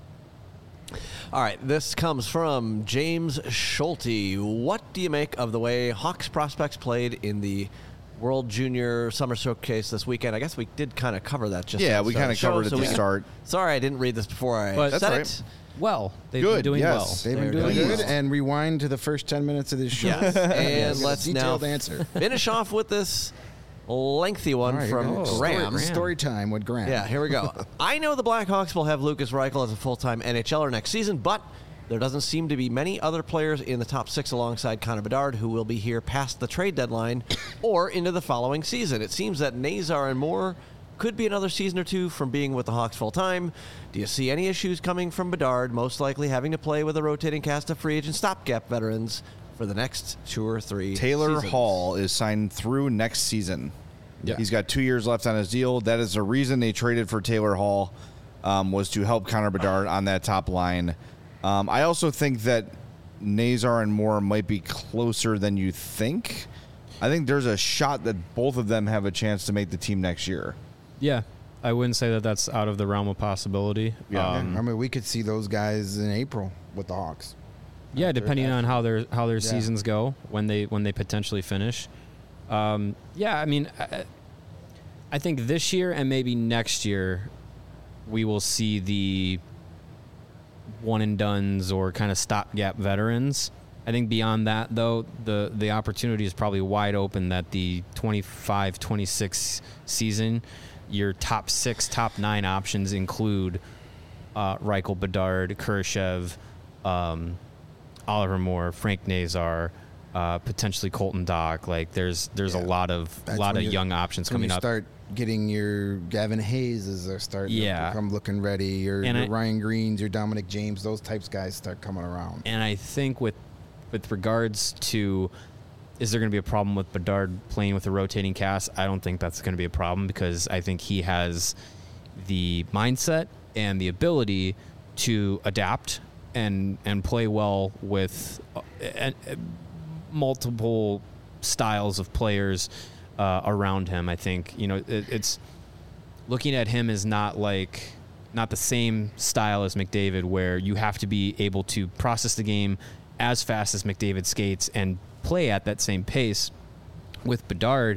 All right, this comes from James Schulte. What do you make of the way Hawks prospects played in the World Junior Summer Showcase this weekend? I guess we did kind of cover that just Yeah, at the we start kinda of the show, covered at so the we can- start. Sorry, I didn't read this before I But- said That's right. it. Well, they've Good, been doing yes. well. They've been They're doing doing good. well. And rewind to the first ten minutes of this show. Yes, and Get a let's now detailed answer. finish off with this lengthy one All right, from here we go. Graham. Story, story time with Graham. Yeah, here we go. I know the Blackhawks will have Lucas Reichel as a full-time NHLer next season, but there doesn't seem to be many other players in the top six alongside Connor Bedard who will be here past the trade deadline or into the following season. It seems that Nazar and Moore could be another season or two from being with the Hawks full-time. Do you see any issues coming from Bedard, most likely having to play with a rotating cast of free agent stopgap veterans for the next two or three Taylor seasons? Hall is signed through next season. Yeah. He's got two years left on his deal. That is the reason they traded for Taylor Hall, um, was to help Connor Bedard on that top line. Um, I also think that Nazar and Moore might be closer than you think. I think there's a shot that both of them have a chance to make the team next year. Yeah, I wouldn't say that that's out of the realm of possibility. Yeah. Um, I mean, we could see those guys in April with the Hawks. yeah, depending on how their how their Yeah. seasons go when they when they potentially finish. Um, yeah, I mean, I, I think this year and maybe next year we will see the one and dones or kind of stopgap veterans. I think beyond that, though, the the opportunity is probably wide open that the twenty-five twenty-six season, your top six, top nine options include uh, Reichel, Bedard, Kurashev, um, Oliver Moore, Frank Nazar, uh, potentially Colton Dock. Like there's there's Yeah. a lot of That's lot when of you- young options When coming you up. start getting your Gavin Hayes as they're starting Yeah. to come looking ready. Your, And your I- Ryan Greens, your Dominic James, those types of guys start coming around. And I think with with regards to is there going to be a problem with Bedard playing with a rotating cast? I don't think that's going to be a problem because I think he has the mindset and the ability to adapt and and play well with uh, uh, multiple styles of players uh, around him. I think you know it, it's looking at him is not like not the same style as McDavid, where you have to be able to process the game as fast as McDavid skates and play at that same pace. With Bedard,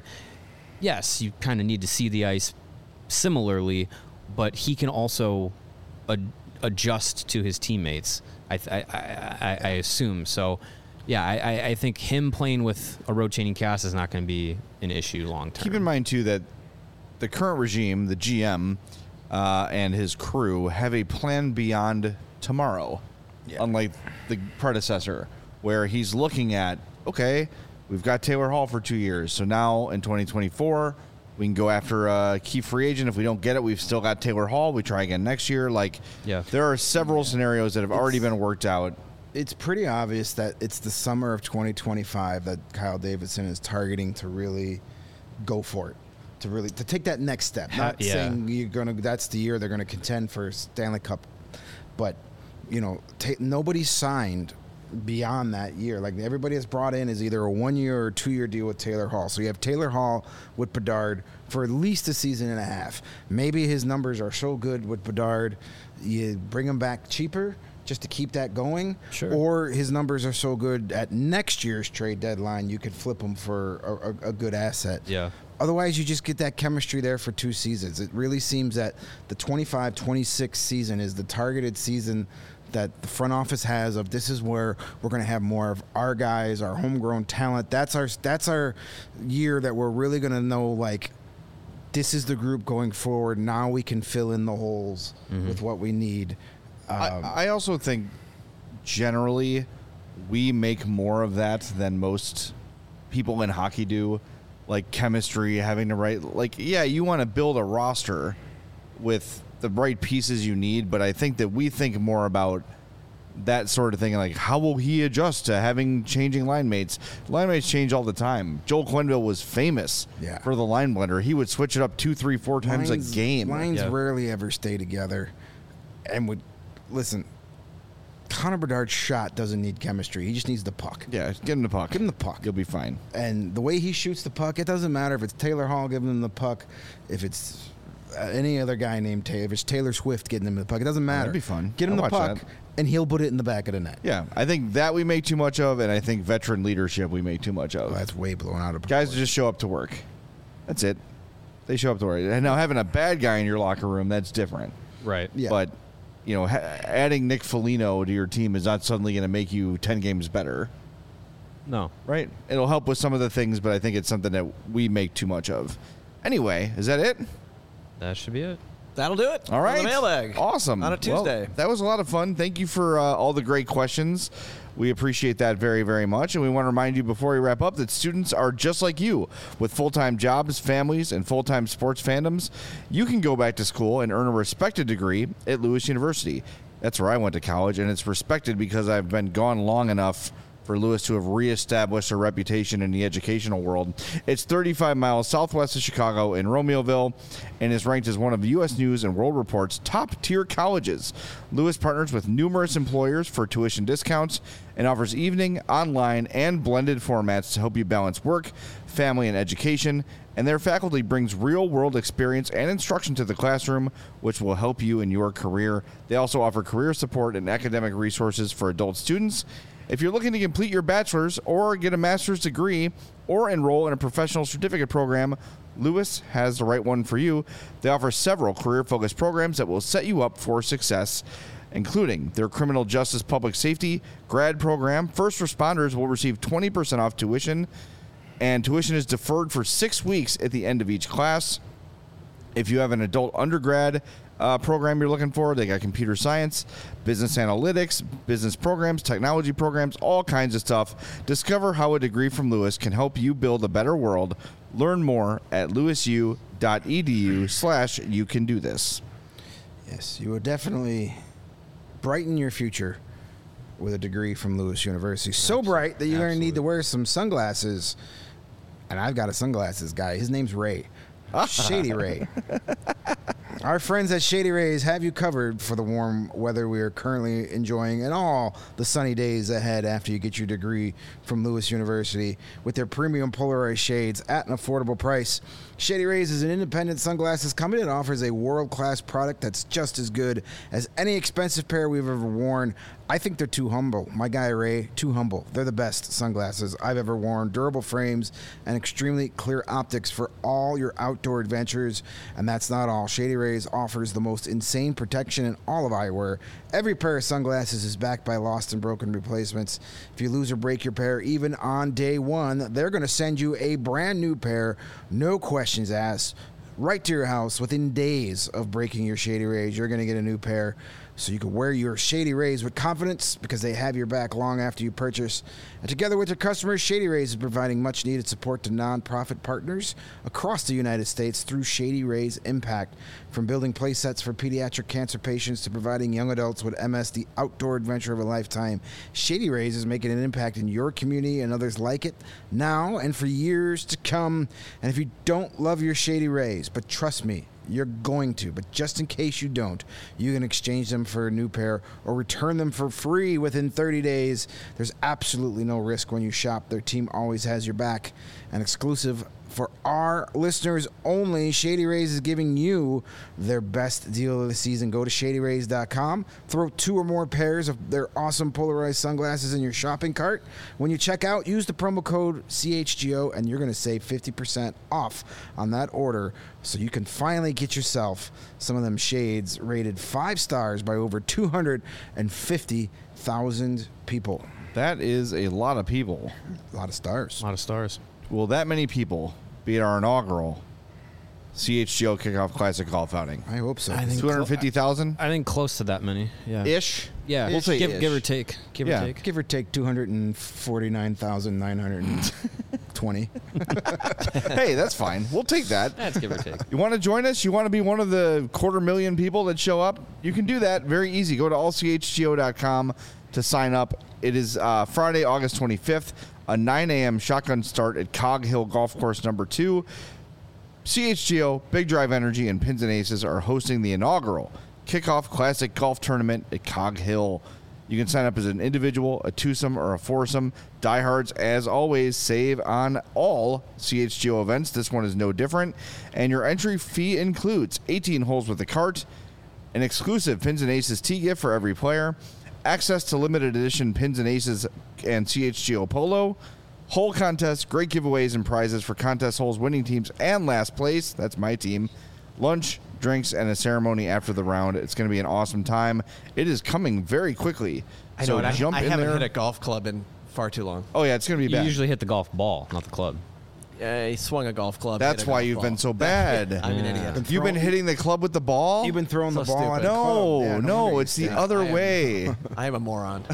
yes, you kind of need to see the ice similarly, but he can also ad- adjust to his teammates. I, th- I, I, I assume so. Yeah, I, I- I think him playing with a rotating cast is not going to be an issue long term. Keep in mind, too, that the current regime, the G M, uh, and his crew have a plan beyond tomorrow, Yeah. unlike the predecessor, where he's looking at, okay, we've got Taylor Hall for two years, so now in twenty twenty-four, we can go after a key free agent. If we don't get it, we've still got Taylor Hall. We try again next year. Like, Yeah. there are several scenarios that have already been worked out. It's pretty obvious that it's the summer of twenty twenty-five that Kyle Davidson is targeting to really go for it, to really to take that next step. Ha- Not yeah. saying you're gonna that's the year they're gonna contend for Stanley Cup, but you know ta- nobody's signed beyond that year. Like everybody has brought in is either a one year or two year deal with Taylor Hall. So you have Taylor Hall with Bedard for at least a season and a half. Maybe his numbers are so good with Bedard, you bring him back cheaper just to keep that going. Sure. Or his numbers are so good at next year's trade deadline, you could flip him for a, a, a good asset. Yeah. Otherwise, you just get that chemistry there for two seasons. It really seems that the twenty-five twenty-six season is the targeted season that the front office has of this is where we're going to have more of our guys, our homegrown talent. That's our that's our year that we're really going to know, like, this is the group going forward. Now we can fill in the holes Mm-hmm. with what we need. Um, I, I also think generally we make more of that than most people in hockey do, like chemistry, having to write. Like, yeah, you want to build a roster with the right pieces you need, but I think that we think more about that sort of thing, like how will he adjust to having changing line mates. Line mates change all the time. Joel Quenneville was famous Yeah. for the line blender. He would switch it up two, three, four times lines, a game. Lines Yeah. rarely ever stay together. And would listen, Connor Bedard's shot doesn't need chemistry. He just needs the puck. Yeah, get him the puck. Give him the puck. You'll be fine. And the way he shoots the puck, it doesn't matter if it's Taylor Hall giving him the puck, if it's uh, any other guy named Taylor, if it's Taylor Swift getting him the puck, it doesn't matter. that'd be fun. Get him I'd the watch puck, that. and he'll put it in the back of the net. Yeah, I think that we make too much of, and I think veteran leadership we make too much of. Oh, that's way blown out of Guys proportion. just show up to work. That's it. They show up to work. And now having a bad guy in your locker room, that's different. Right. Yeah. But, you know, ha- adding Nick Foligno to your team is not suddenly going to make you ten games better, No. right? It'll help with some of the things, but I think it's something that we make too much of. Anyway, is that it? That should be it. That'll do it. All on right. the mailbag. Awesome. On a Well, Tuesday. that was a lot of fun. Thank you for uh, all the great questions. We appreciate that very, very much. And we want to remind you before we wrap up that students are just like you with full-time jobs, families, and full-time sports fandoms. You can go back to school and earn a respected degree at Lewis University. That's where I went to college, and it's respected because I've been gone long enough for Lewis to have reestablished a reputation in the educational world. It's thirty-five miles southwest of Chicago in Romeoville and is ranked as one of U S News and World Report's top-tier colleges. Lewis partners with numerous employers for tuition discounts and offers evening, online, and blended formats to help you balance work, family, and education. And their faculty brings real-world experience and instruction to the classroom, which will help you in your career. They also offer career support and academic resources for adult students. If you're looking to complete your bachelor's or get a master's degree or enroll in a professional certificate program, Lewis has the right one for you. They offer several career-focused programs that will set you up for success, including their criminal justice public safety grad program. First responders will receive twenty percent off tuition, and tuition is deferred for six weeks at the end of each class. If you have an adult undergrad uh, program you're looking for, they got computer science, business analytics, business programs, technology programs, all kinds of stuff. Discover how a degree from Lewis can help you build a better world. Learn more at lewisu.edu slash you can do this. Yes, you will definitely brighten your future with a degree from Lewis University. So bright that you're going to need to wear some sunglasses. And I've got a sunglasses guy. His name's Ray. Shady Ray. Our friends at Shady Rays have you covered for the warm weather we are currently enjoying and all the sunny days ahead after you get your degree from Lewis University with their premium polarized shades at an affordable price. Shady Rays is an independent sunglasses company that offers a world-class product that's just as good as any expensive pair we've ever worn. I think they're too humble. My guy Ray, too humble. They're the best sunglasses I've ever worn. Durable frames and extremely clear optics for all your outdoor adventures. And that's not all. Shady Rays offers the most insane protection in all of eyewear. Every pair of sunglasses is backed by lost and broken replacements. If you lose or break your pair, even on day one, they're going to send you a brand new pair, no questions asked, right to your house. Within days of breaking your Shady Rays, you're going to get a new pair. So you can wear your Shady Rays with confidence because they have your back long after you purchase. And together with their customers, Shady Rays is providing much needed support to nonprofit partners across the United States through Shady Rays Impact. From building play sets for pediatric cancer patients to providing young adults with M S the outdoor adventure of a lifetime, Shady Rays is making an impact in your community and others like it now and for years to come. And if you don't love your Shady Rays, but trust me, you're going to, but just in case you don't, you can exchange them for a new pair or return them for free within thirty days. There's absolutely no risk when you shop. Their team always has your back. An exclusive for our listeners only, Shady Rays is giving you their best deal of the season. Go to shady rays dot com. Throw two or more pairs of their awesome polarized sunglasses in your shopping cart. When you check out, use the promo code C H G O, and you're going to save fifty percent off on that order so you can finally get yourself some of them shades rated five stars by over two hundred fifty thousand people. That is a lot of people. A lot of stars. A lot of stars. Will that many people be at our inaugural C H G O Kickoff Classic Golf outing? I hope so. I think two hundred fifty thousand? I think close to that many. Yeah. Ish? Yeah. We'll say give, ish. give or take. Give Yeah. or take. Give or take two hundred forty-nine thousand nine hundred twenty. Hey, that's fine. We'll take that. That's give or take. You want to join us? You want to be one of the quarter million people that show up? You can do that. Very easy. Go to all c h g o dot com to sign up. It is uh, Friday, August twenty-fifth, a nine a.m. shotgun start at Cog Hill Golf Course number two. C H G O, Big Drive Energy, and Pins and Aces are hosting the inaugural Kickoff Classic Golf Tournament at Cog Hill. You can sign up as an individual, a twosome, or a foursome. Diehards, as always, save on all C H G O events. This one is no different. And your entry fee includes eighteen holes with a cart, an exclusive Pins and Aces tee gift for every player, access to limited edition Pins and Aces and C H G O Polo, hole contests, great giveaways and prizes for contest holes, winning teams, and last place. That's my team. Lunch, drinks, and a ceremony after the round. It's going to be an awesome time. It is coming very quickly. I know, so and I, jump I in haven't there. hit a golf club in far too long. Oh, yeah, it's going to be You bad. usually hit the golf ball, not the club. I swung a golf club. That's hit a why golf you've ball. been so bad. I'm an Yeah. idiot. You've been hitting the club with the ball? You've been throwing So the ball at the stupid. no, club. Yeah, no, wonder it's you the stink. other I am- way. I am a moron.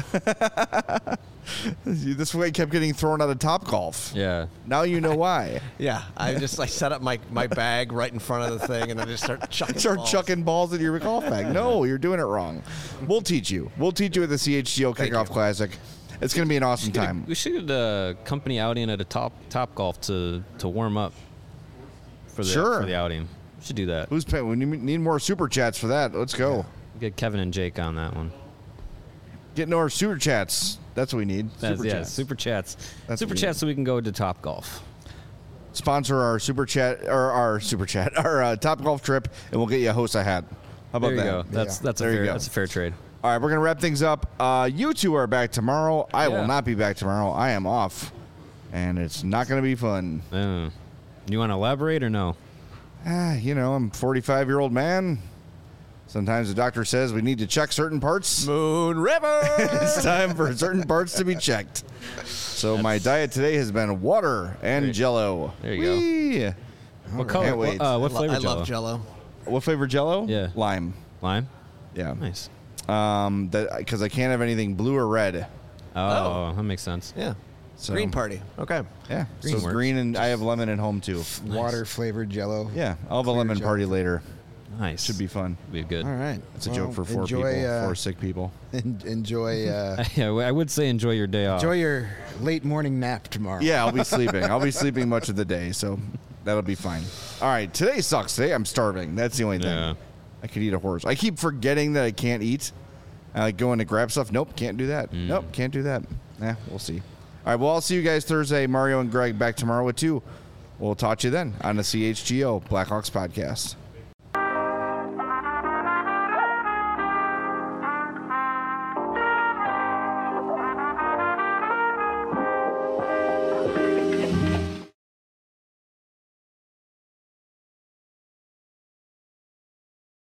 This way kept getting thrown out of Top Golf. Yeah. Now you know why. Yeah, I just like set up my, my bag right in front of the thing, and then just start chucking. Start balls. chucking balls into your golf bag. No, you're doing it wrong. We'll teach you. We'll teach you at the C H G O Thank Kickoff you. Classic. It's going to be an awesome time. We should get a company outing at a top top golf to to warm up for the Sure. for the outing. We should do that. Who's paying? We need need more super chats for that. Let's go. Get Kevin and Jake on that one. Getting our super chats. That's what we need. That's, Super yeah, chats. super chats. That's super what we chats need. so we can go to Top Golf. Sponsor our super chat or our super chat, our uh, Top Golf trip, and we'll get you a host a hat. How about There you that? go. That's Yeah. that's a There you fair go. that's a fair trade. All right, we're gonna wrap things up. Uh, you two are back tomorrow. I Yeah. will not be back tomorrow. I am off, and it's not gonna be fun. Uh, you want to elaborate or no? Ah, you know, I'm a forty-five year old man. Sometimes the doctor says we need to check certain parts. Moon River. It's time for certain parts to be checked. So my diet today has been water and There- Jello. there you go. Whee! What Can't color? wait. What, uh, what I lo- flavor I Jello? love Jello. What flavor Jello? Yeah. Lime. Lime. Yeah. Nice. Um, that because I can't have anything blue or red. Oh, Oh. that makes sense. Yeah. So, Green party. Okay. Yeah. Green so works. green, and I have lemon at home too. Water flavored Jello. Yeah, I'll have a Clear lemon Jello. party later. Nice. Should be fun. be good. All right. It's a Well, joke for four enjoy, people, uh, four sick people. en- enjoy. Uh, Yeah, I would say enjoy your day off. enjoy your late morning nap tomorrow. Yeah, I'll be sleeping. I'll be sleeping much of the day, so that'll be fine. All right, today sucks. Today I'm starving. That's the only thing. Yeah. I could eat a horse. I keep forgetting that I can't eat. I like going to grab stuff. Nope, can't do that. Mm. Nope, can't do that. Nah, we'll see. All right, well, I'll see you guys Thursday. Mario and Greg back tomorrow with two. We'll talk to you then on the C H G O Blackhawks podcast.